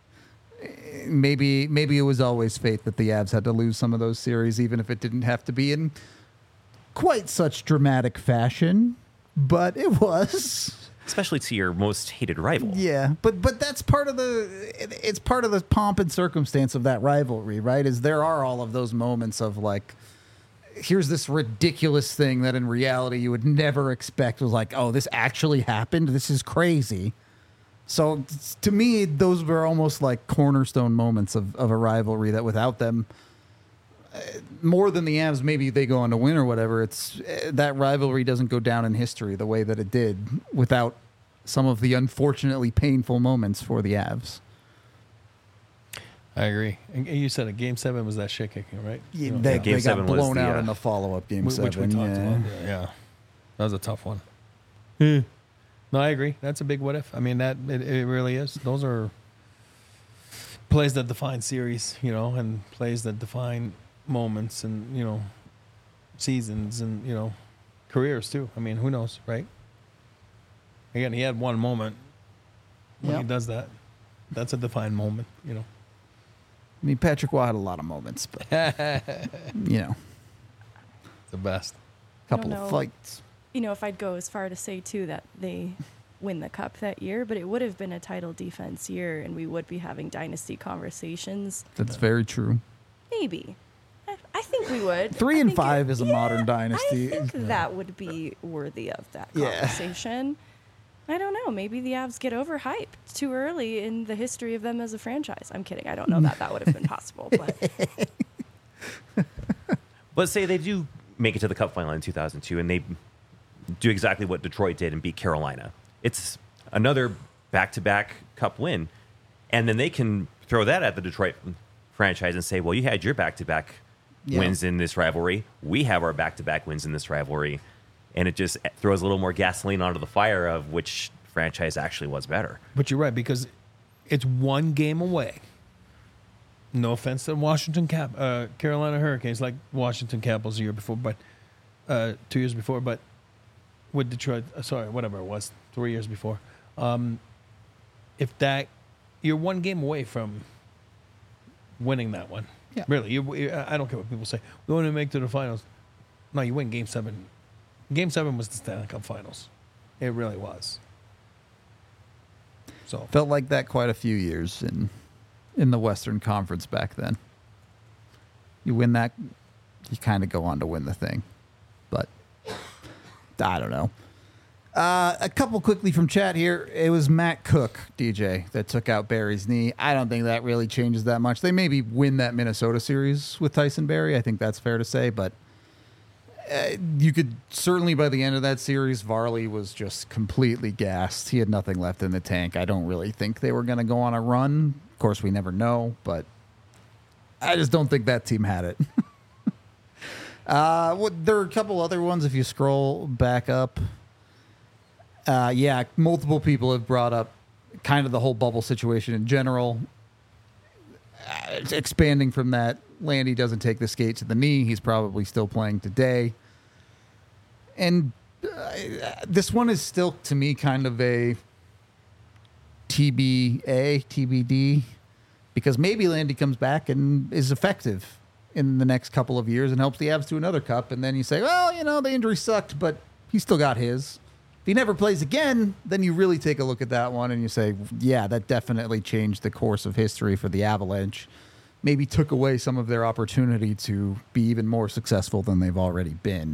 maybe maybe it was always fate that the Avs had to lose some of those series, even if it didn't have to be in quite such dramatic fashion. But it was. Especially to your most hated rival. Yeah, but but that's part of the it's part of the pomp and circumstance of that rivalry, right? Is there are all of those moments of like, here's this ridiculous thing that in reality you would never expect was like, oh, this actually happened. This is crazy. So to me, those were almost like cornerstone moments of, of a rivalry that without them, uh, more than the Avs, maybe they go on to win or whatever. It's uh, that rivalry doesn't go down in history the way that it did without some of the unfortunately painful moments for the Avs. I agree. And you said a game seven was that shit kicking, right? Yeah, You know, they, Yeah, game they got seven was blown the, out uh, in the follow-up game Wh- which we seven. talked yeah. about. Yeah, that was a tough one. No, I agree. That's a big what if. I mean, that it, it really is. Those are plays that define series, you know, and plays that define moments and, you know, seasons and, you know, careers too. I mean, who knows, right? Again, he had one moment when Yep. he does that. That's a defined moment, you know. I mean, Patrick Waugh had a lot of moments, but, you know, The best. a couple I don't of know. fights. You know, if I'd go as far to say too that they win the cup that year, but it would have been a title defense year, and we would be having dynasty conversations. That's very true. Maybe. I, I think we would. Three I and think five it- is a yeah, modern dynasty. I think that would be worthy of that Yeah. conversation. I don't know. Maybe the Avs get overhyped too early in the history of them as a franchise. I'm kidding. I don't know that that would have been possible. But Let's say they do make it to the Cup final in two thousand two, and they do exactly what Detroit did and beat Carolina. It's another back-to-back Cup win, and then they can throw that at the Detroit franchise and say, well, you had your back-to-back Yeah. wins in this rivalry. We have our back-to-back wins in this rivalry. And it just throws a little more gasoline onto the fire of which franchise actually was better. But you're right, because it's one game away. No offense to Washington Cap, uh, Carolina Hurricanes, like Washington Capitals a year before, but uh, two years before, but with Detroit, uh, sorry, whatever it was, three years before. Um, if that, you're one game away from winning that one. Yeah. Really, you, you- I don't care what people say. We want to make it to the finals. No, you win Game Seven. Game Seven was the Stanley Cup Finals. It really was. So Felt like that quite a few years in in the Western Conference back then. You win that, you kind of go on to win the thing. But I don't know. Uh, a couple quickly from chat here. It was Matt Cook, D J, that took out Barry's knee. I don't think that really changes that much. They maybe win that Minnesota series with Tyson Barrie. I think that's fair to say, but uh, you could certainly by the end of that series, Varley was just completely gassed. He had nothing left in the tank. I don't really think they were going to go on a run. Of course, we never know, but I just don't think that team had it. uh, what, there are a couple other ones if you scroll back up. Uh, yeah, multiple people have brought up kind of the whole bubble situation in general. Uh, expanding from that, Landy doesn't take the skate to the knee. He's probably still playing today. And uh, this one is still, to me, kind of a T B A, T B D, because maybe Landy comes back and is effective in the next couple of years and helps the Avs to another cup. And then you say, well, you know, the injury sucked, but he still got his. If he never plays again, then you really take a look at that one and you say, yeah, that definitely changed the course of history for the Avalanche. Maybe took away some of their opportunity to be even more successful than they've already been.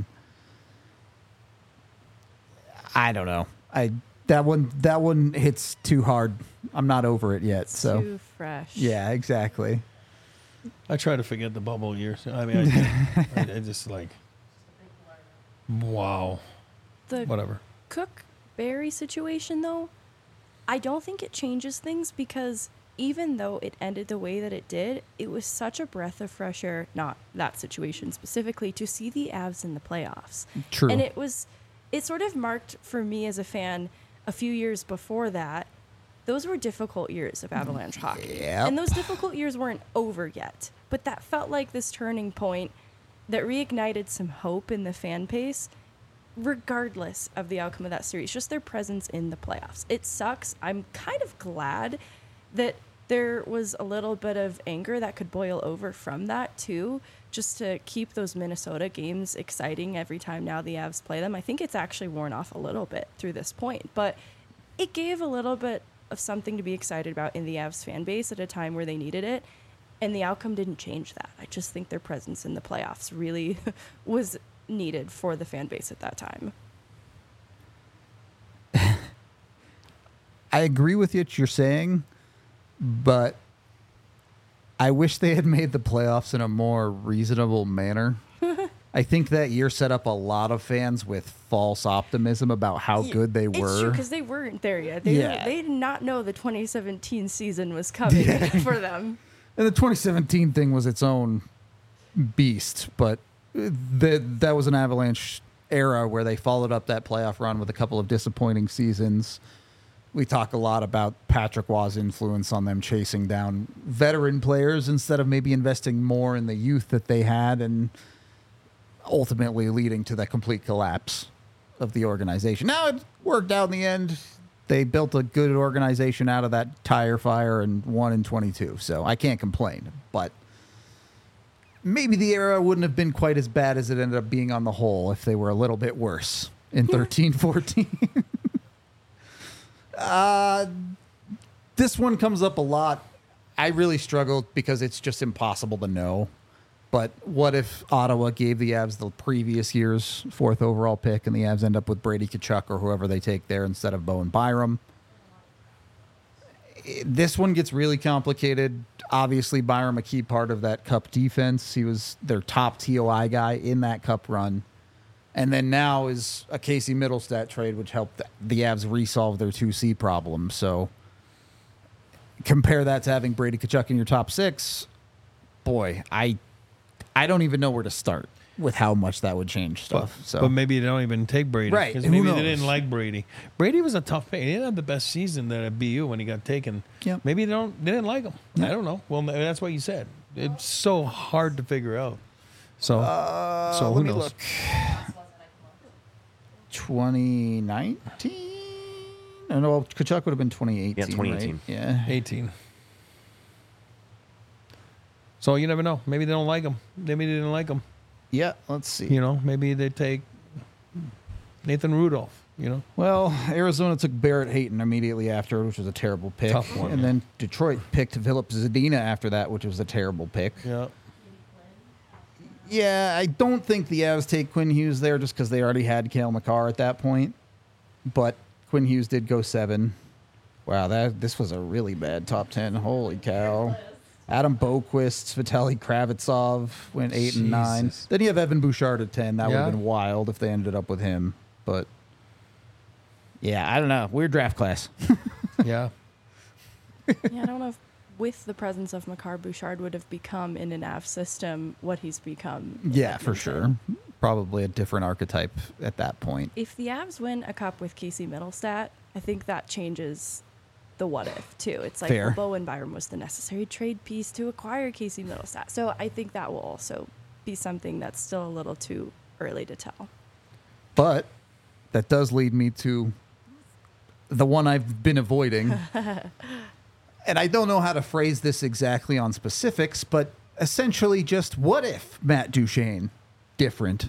I don't know. I that one that one hits too hard. I'm not over it yet. So too fresh. yeah, exactly. I try to forget the bubble years. I mean, I, I, I just like, wow, The whatever. Cook Barry situation, though, I don't think it changes things because even though it ended the way that it did, it was such a breath of fresh air, not that situation specifically, to see the Avs in the playoffs. True. And it was, it sort of marked for me as a fan a few years before that. Those were difficult years of Avalanche hockey. Yep. And those difficult years weren't over yet. But that felt like this turning point that reignited some hope in the fan base, regardless of the outcome of that series, just their presence in the playoffs. It sucks. I'm kind of glad that there was a little bit of anger that could boil over from that, too, just to keep those Minnesota games exciting every time now the Avs play them. I think it's actually worn off a little bit through this point, but it gave a little bit of something to be excited about in the Avs fan base at a time where they needed it, and the outcome didn't change that. I just think their presence in the playoffs really was needed for the fan base at that time. I agree with what you're saying, but I wish they had made the playoffs in a more reasonable manner. I think that year set up a lot of fans with false optimism about how good they It's were. true, because they weren't there yet. They, Yeah. they did not know the twenty seventeen season was coming for them. And the twenty seventeen thing was its own beast, but the, that was an Avalanche era where they followed up that playoff run with a couple of disappointing seasons. We talk a lot about Patrick Waugh's influence on them chasing down veteran players instead of maybe investing more in the youth that they had, and ultimately leading to the complete collapse of the organization. Now it worked out in the end. They built a good organization out of that tire fire and won in twenty-two, so I can't complain. But maybe the era wouldn't have been quite as bad as it ended up being on the whole if they were a little bit worse in thirteen fourteen. uh, this one comes up a lot. I really struggled because it's just impossible to know. But what if Ottawa gave the Avs the previous year's fourth overall pick and the Avs end up with Brady Tkachuk or whoever they take there instead of Bowen Byram? This one gets really complicated. Obviously, Byram, a key part of that Cup defense. He was their top T O I guy in that Cup run. And then now is a Casey Middlestat trade, which helped the Avs resolve their two C problem. So compare that to having Brady Tkachuk in your top six. Boy, I I don't even know where to start with how much that would change stuff. But, so, but maybe they don't even take Brady. Right. Because Who maybe knows? they didn't like Brady. Brady was a tough pick. He didn't have the best season there at B U when he got taken. Yep. Maybe they don't. They didn't like him. Yeah. I don't know. Well, that's what you said. It's so hard to figure out. So, uh, so who let me knows? look. twenty nineteen? No, no, well, Tkachuk would have been twenty eighteen. Yeah, twenty eighteen. Right? Yeah. eighteen. So you never know. Maybe they don't like him. Maybe they didn't like him. Yeah, let's see. You know, maybe they take Nathan Rudolph. You know, Well, Arizona took Barrett Hayton immediately after, which was a terrible pick. Tough one. And then Detroit picked Philip Zadina after that, which was a terrible pick. yeah. Yeah, I don't think the Avs take Quinn Hughes there just because they already had Cale Makar at that point. But Quinn Hughes did go seven. Wow, that this was a really bad top ten. Holy cow. Adam Boquist, Vitaly Kravitsov went eight and nine. Jesus. Then you have Evan Bouchard at ten. That would Yeah. have been wild if they ended up with him. But yeah, I don't know. Weird draft class. Yeah. Yeah, I don't know if with the presence of Makar, Bouchard would have become in an A V system what he's become. in Yeah, for Edmonton. sure. Probably a different archetype at that point. If the Avs win a cup with Casey Middlestat, I think that changes the what if too. It's like Fair. well, Bowen Byram was the necessary trade piece to acquire Casey Middlestat. So I think that will also be something that's still a little too early to tell. But that does lead me to the one I've been avoiding. And I don't know how to phrase this exactly on specifics, but essentially just what if Matt Duchene different?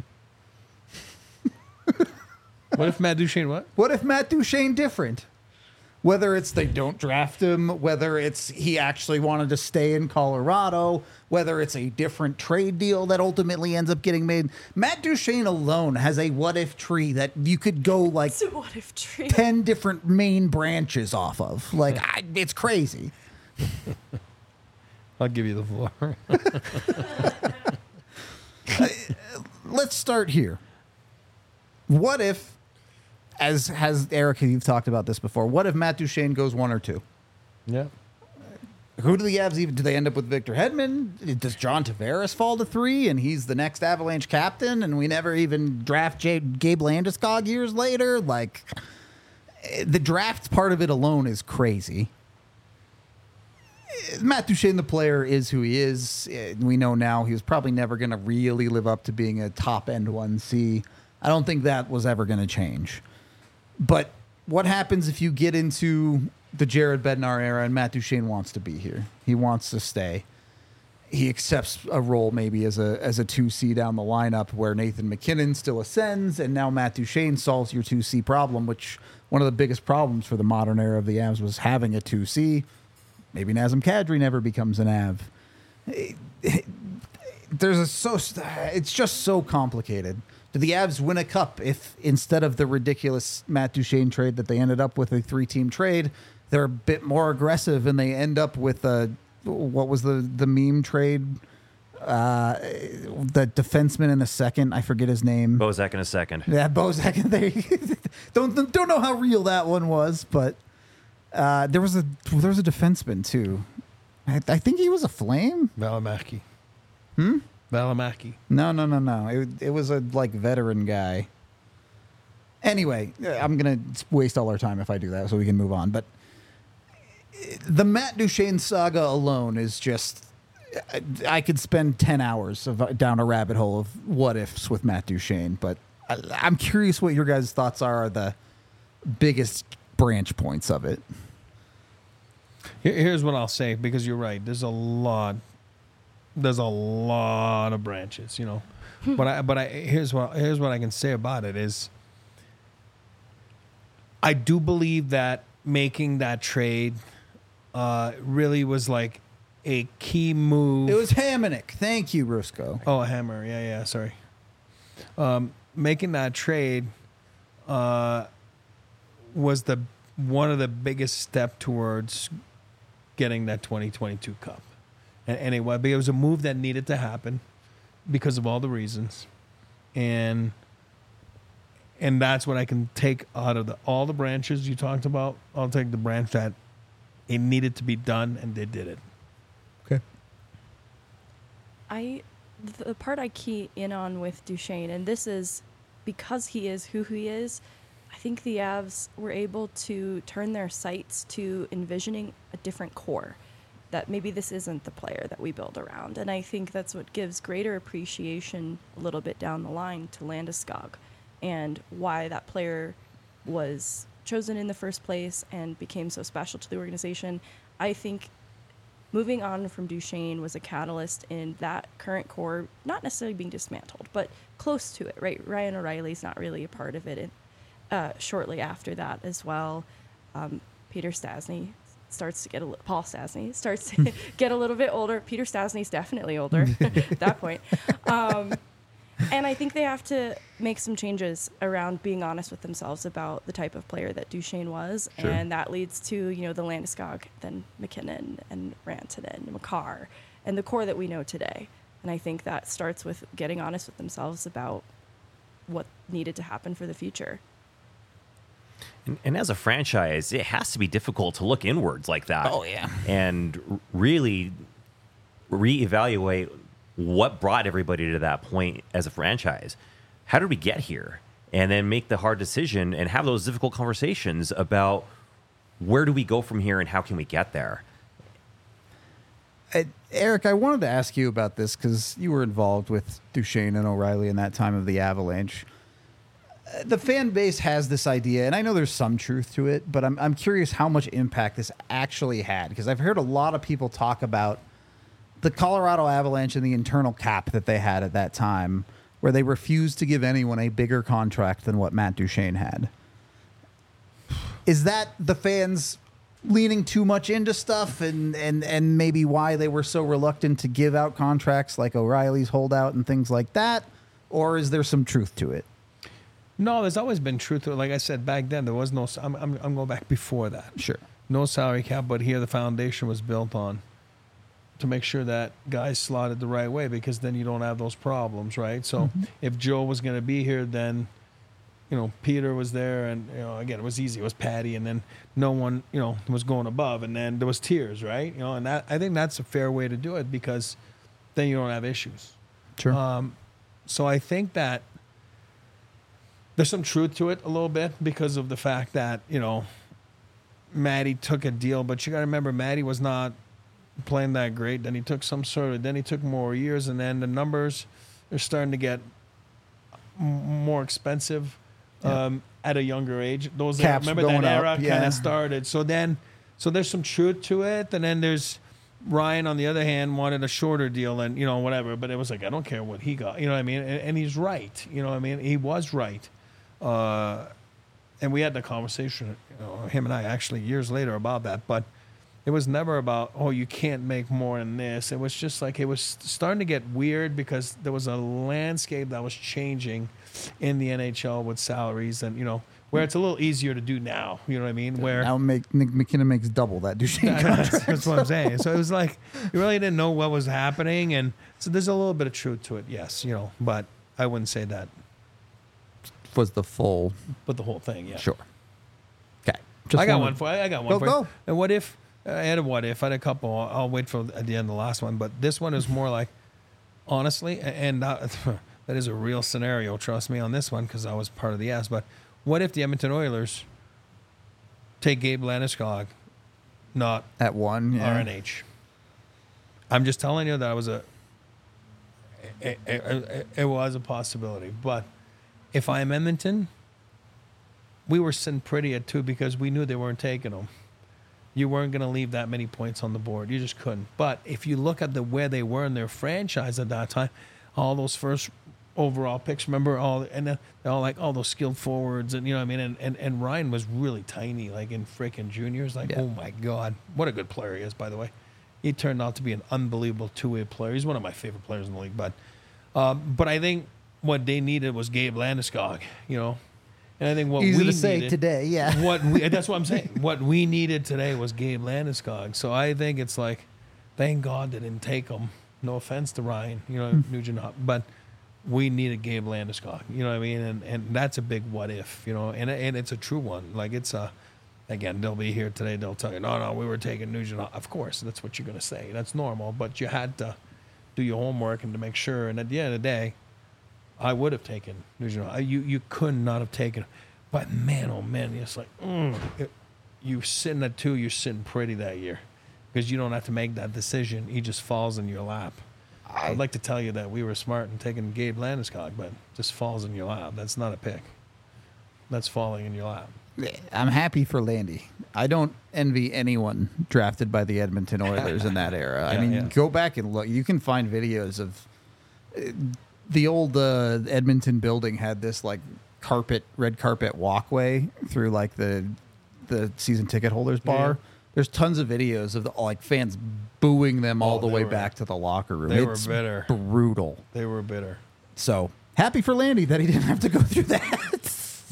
What if Matt Duchene? What? What if Matt Duchene different? Whether it's they don't draft him, whether it's he actually wanted to stay in Colorado, whether it's a different trade deal that ultimately ends up getting made. Matt Duchene alone has a what if tree that you could go like So what if trade? ten different main branches off of. Like, I, it's crazy. I'll give you the floor. Let's start here. What if, as has Eric, you've talked about this before, what if Matt Duchene goes one or two? Yeah. Who do the Avs even? Do they end up with Victor Hedman? Does John Tavares fall to three and he's the next Avalanche captain and we never even draft J- Gabe Landeskog years later? Like, the draft part of it alone is crazy. Matt Duchene, the player, is who he is. We know now he was probably never going to really live up to being a top-end one C. I don't think that was ever going to change. But what happens if you get into the Jared Bednar era and Matt Duchene wants to be here? He wants to stay. He accepts a role maybe as a as a two C down the lineup where Nathan McKinnon still ascends, and now Matt Duchene solves your two C problem, which one of the biggest problems for the modern era of the Avs was having a two C. Maybe Nazem Kadri never becomes an A V. There's a so it's just so complicated. Do the Avs win a cup if instead of the ridiculous Matt Duchene trade that they ended up with a three-team trade, they're a bit more aggressive and they end up with a what was the the meme trade? Uh, the defenseman in the second, I forget his name. Bozak in a second. Yeah, Bozak. They don't don't know how real that one was, but uh, there was a there was a defenseman too. I, I think he was a Flame. Valimaki. Hmm. Valimaki. No, no, no, no. It it was a like veteran guy. Anyway, I'm gonna waste all our time if I do that, so we can move on. But the Matt Duchene saga alone is just. I could spend ten hours of, down a rabbit hole of what ifs with Matt Duchene, but I, I'm curious what your guys' thoughts are, are the biggest branch points of it. Here, here's what I'll say, because you're right. There's a lot. There's a lot of branches, you know. but I, but I here's what here's what I can say about it is. I do believe that making that trade uh, really was like a key move. It was Hamonic. Thank you, Rusco. Oh, a hammer. Yeah, yeah. Sorry. Um, making that trade uh, was the one of the biggest step towards getting that twenty twenty-two Cup. And anyway, but it was a move that needed to happen because of all the reasons, and and that's what I can take out of the all the branches you talked about. I'll take the branch that it needed to be done, and they did it. Okay. I, the part I key in on with Duchesne, and this is because he is who he is, I think the Avs were able to turn their sights to envisioning a different core, that maybe this isn't the player that we build around. And I think that's what gives greater appreciation a little bit down the line to Landeskog and why that player was chosen in the first place and became so special to the organization. I think moving on from Duchesne was a catalyst in that current core not necessarily being dismantled, but close to it, right? Ryan O'Reilly's not really a part of it. And uh, shortly after that as well, um, Peter Stastny starts to get a little, Paul Stastny starts to get a little bit older. Peter Stastny's definitely older at that point. Um, and I think they have to make some changes around being honest with themselves about the type of player that Duchesne was. Sure. And that leads to, you know, the Landeskog, then McKinnon and Rantanen and Makar and the core that we know today. And I think that starts with getting honest with themselves about what needed to happen for the future. And, and as a franchise, it has to be difficult to look inwards like that. Oh, yeah. And r- really reevaluate what brought everybody to that point as a franchise. How did we get here? And then make the hard decision and have those difficult conversations about where do we go from here and how can we get there? Uh, Eric, I wanted to ask you about this because you were involved with Duchesne and O'Reilly in that time of the Avalanche. Uh, the fan base has this idea, and I know there's some truth to it, but I'm, I'm curious how much impact this actually had, because I've heard a lot of people talk about the Colorado Avalanche and the internal cap that they had at that time, where they refused to give anyone a bigger contract than what Matt Duchesne had. Is that the fans leaning too much into stuff and, and, and maybe why they were so reluctant to give out contracts like O'Reilly's holdout and things like that? Or is there some truth to it? No, there's always been truth to it. Like I said, back then, there was no, I'm, I'm, I'm going back before that. Sure. No salary cap, but here the foundation was built on to make sure that guys slotted the right way, because then you don't have those problems, right? So mm-hmm. if Joe was going to be here, then, you know, Peter was there, and, you know, again, it was easy. It was Patty, and then no one, you know, was going above, and then there was tiers, right? You know, and that, I think that's a fair way to do it, because then you don't have issues. Sure. Um, so I think that there's some truth to it a little bit because of the fact that, you know, Matty took a deal, but you got to remember Matty was not playing that great. Then he took some sort of, then he took more years, and then the numbers are starting to get m- more expensive yeah. um, at a younger age. Those Caps remember going that era up, kind yeah. of started. So then, so there's some truth to it, and then there's Ryan on the other hand wanted a shorter deal, and you know whatever. But it was like I don't care what he got, you know what I mean? And, and he's right, you know what I mean? He was right. Uh, and we had the conversation, you know, him and I actually years later about that, but it was never about, oh, you can't make more than this. It was just like, it was starting to get weird because there was a landscape that was changing in the N H L with salaries, and, you know, where it's a little easier to do now, you know what I mean? Where now make, Nick McKinnon makes double that Duchesne contract. that's, that's what I'm saying. So it was like, you really didn't know what was happening. And so there's a little bit of truth to it, yes, you know, but I wouldn't say that. Was the full, but the whole thing, yeah. Sure. Okay. Just I got wanted, one for I got one Go, for go. you. And what if I had a what if? I had a couple. I'll, I'll wait for at the end of the last one. But this one is more like, honestly, and uh, that is a real scenario. Trust me on this one because I was part of the ass. But what if the Edmonton Oilers take Gabe Landeskog, not at one yeah. R N H? I'm just telling you that was a it, it, it, it was a possibility, but. If I'm Edmonton, we were sitting pretty at two because we knew they weren't taking them. You weren't going to leave that many points on the board. You just couldn't. But if you look at the where they were in their franchise at that time, all those first overall picks, remember all, and they're all like all those skilled forwards, and you know what I mean. And and, and Ryan was really tiny, like in freaking juniors. Like, yeah. oh my god, what a good player he is, by the way. he turned out to be an unbelievable two-way player. He's one of my favorite players in the league. But, um, but I think what they needed was Gabe Landeskog, you know. And I think what Easy we to say needed, today, yeah. What we, that's what I'm saying. What we needed today was Gabe Landeskog. So I think it's like, thank God they didn't take him. No offense to Ryan, you know, Nugent, but we needed Gabe Landeskog. You know what I mean? And and that's a big what if, you know, and and it's a true one. Like it's a, again, they'll be here today. They'll tell you, no, no, we were taking Nugent. Of course, that's what you're going to say. That's normal. But you had to do your homework and to make sure. And at the end of the day, I would have taken Nugent. You you could not have taken. But man, oh man, it's like mm, it, you sitting at two, you're sitting pretty that year because you don't have to make that decision. He just falls in your lap. I, I'd like to tell you that we were smart in taking Gabe Landeskog, but just falls in your lap. That's not a pick. That's falling in your lap. I'm happy for Landy. I don't envy anyone drafted by the Edmonton Oilers in that era. I Yeah, mean, yeah. go back and look. You can find videos of uh, the old uh, Edmonton building had this like carpet, red carpet walkway through like the the season ticket holders bar. Yeah. There's tons of videos of the, like fans booing them all Oh, the they way were- back to the locker room. they were It's bitter. brutal. They were bitter. So happy for Landy that he didn't have to go through that.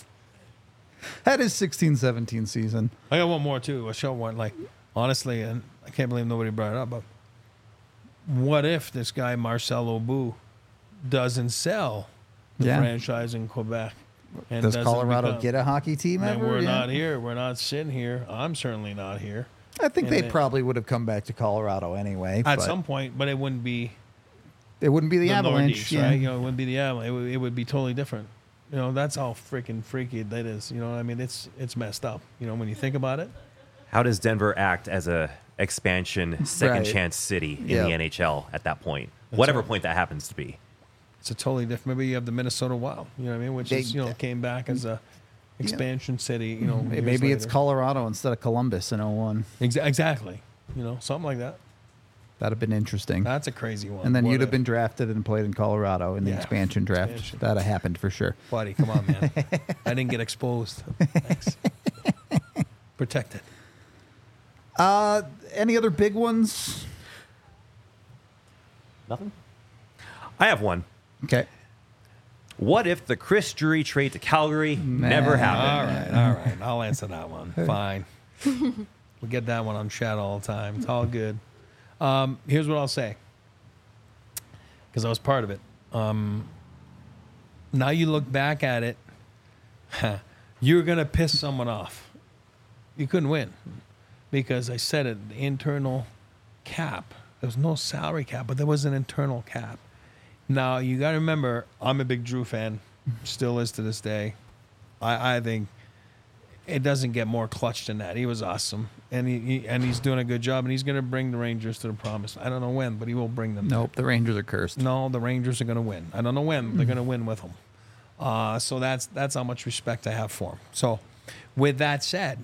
Had his sixteen seventeen season. I got one more too. A show one like honestly, and I can't believe nobody brought it up. But what if this guy Marcel Aubut doesn't sell the Yeah. franchise in Quebec? And Does doesn't Colorado become- get a hockey team And ever? we're Yeah. not here. We're not sitting here. I'm certainly not here I think and they then- probably would have come back to Colorado anyway. at but some point, but it wouldn't be it wouldn't be the, the Avalanche. Nordiques, Yeah. right? You know, it wouldn't be the Avalanche. It would, it would be totally different. You know, that's how freaking freaky that is. You know what I mean? It's it's messed up. You know, when you think about it. How does Denver act as a expansion second Right. chance city in Yeah. the N H L at that point? That's Whatever right. point that happens to be. It's a totally different. Maybe you have the Minnesota Wild. You know what I mean? Which They- is you know came back as a expansion city. You know, years Maybe it's later. Colorado instead of Columbus in oh one. Exa- exactly. You know, something like that. That'd have been interesting. That's a crazy one. and then What you'd have a- been drafted and played in Colorado in the Yeah. expansion draft. Expansion. That'd have happened for sure. buddy. Come on, man. I didn't get exposed. Thanks. Protected. Uh, any other big ones? Nothing? I have one. Okay. What if the Chris Drury trade to Calgary never happened? All right, all right. I'll answer that one. Fine. We get that one on chat all the time. It's all good. Um, here's what I'll say, because I was part of it. Um, now you look back at it, you're gonna piss someone off. You couldn't win because I said it. The internal cap. There was no salary cap, but there was an internal cap. Now you got to remember, I'm a big Drew fan, still is to this day. I, I think it doesn't get more clutch than that. He was awesome, and he, he and he's doing a good job, and he's going to bring the Rangers to the promise. I don't know when, but he will bring them. Nope. The Rangers are cursed. No, the Rangers are going to win. I don't know when, but they're going to win with him. Uh, so that's that's how much respect I have for him. So, with that said,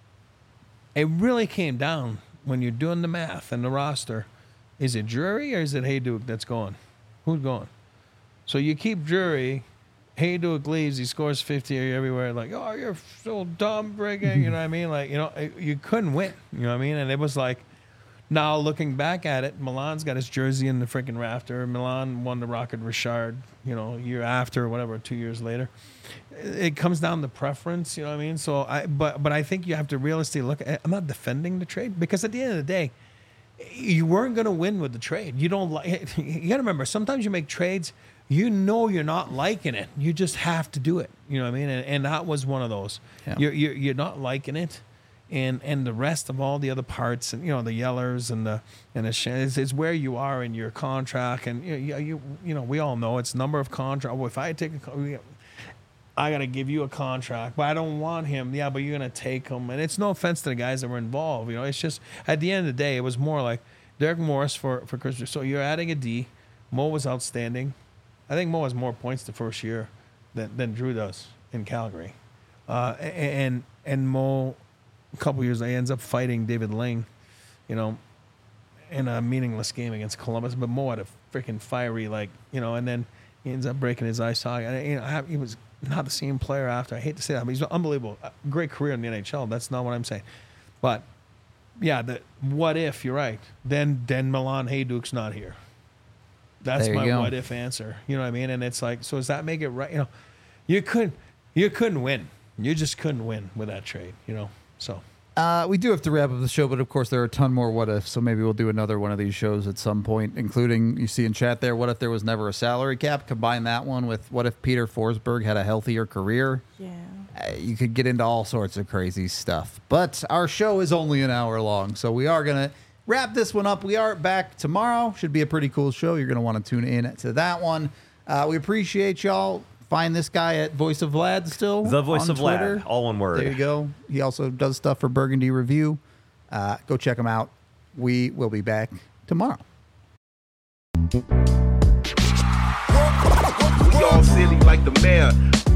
it really came down when you're doing the math and the roster. Is it Drury or is it Hayduke that's going? Who's going? So you keep Drury. Hayduke leaves. He scores fifty everywhere. Like, oh, you're so dumb, Brigham. You know what I mean? Like, you know, you couldn't win. You know what I mean? And it was like, now looking back at it, Milan's got his jersey in the freaking rafter. Milan won the Rocket Richard, you know, a year after or whatever, two years later. It comes down to preference, you know what I mean? So I, but but I think you have to realistically look at. I'm not defending the trade because at the end of the day, you weren't going to win with the trade. You don't like. You got to remember, sometimes you make trades. You know you're not liking it. You just have to do it. You know what I mean? And, and that was one of those. Yeah. You're, you're you're not liking it, and and the rest of all the other parts, and you know the yellers and the and the sh- it's, it's where you are in your contract, and you you you, you know we all know it's number of contract. Well, if I take a, co- I got to give you a contract, but I don't want him. Yeah, but you're gonna take him, and it's no offense to the guys that were involved. You know, it's just at the end of the day, it was more like Derek Morris for for Chris. So you're adding a D. Mo was outstanding. I think Mo has more points the first year than, than Drew does in Calgary. Uh, and and Mo, a couple years later, ends up fighting David Ling, you know, in a meaningless game against Columbus. But Mo had a freaking fiery, like, you know, and then he ends up breaking his eye socket. And, you know, I- he was not the same player after. I hate to say that, but he's unbelievable. A great career in the N H L. That's not what I'm saying. But yeah, the what if you're right? Then then Milan Hajduk's not here. That's There you my go. what if answer. You know what I mean? And it's like, so does that make it right? You know, you couldn't you couldn't win. You just couldn't win with that trade. You know, so. Uh, we do have to wrap up the show, but of course there are a ton more what ifs, so maybe we'll do another one of these shows at some point, including, you see in chat there, what if there was never a salary cap? Combine that one with what if Peter Forsberg had a healthier career? Yeah. Uh, you could get into all sorts of crazy stuff. But our show is only an hour long, so we are going to wrap this one up. We are back tomorrow. Should be a pretty cool show. You're going to want to tune in to that one. Uh, we appreciate y'all. Find this guy at Voice of Vlad still. The Voice on of Twitter. Vlad, all one word. There you go. He also does stuff for Burgundy Review. Uh, go check him out. We will be back tomorrow. We all silly like the mayor.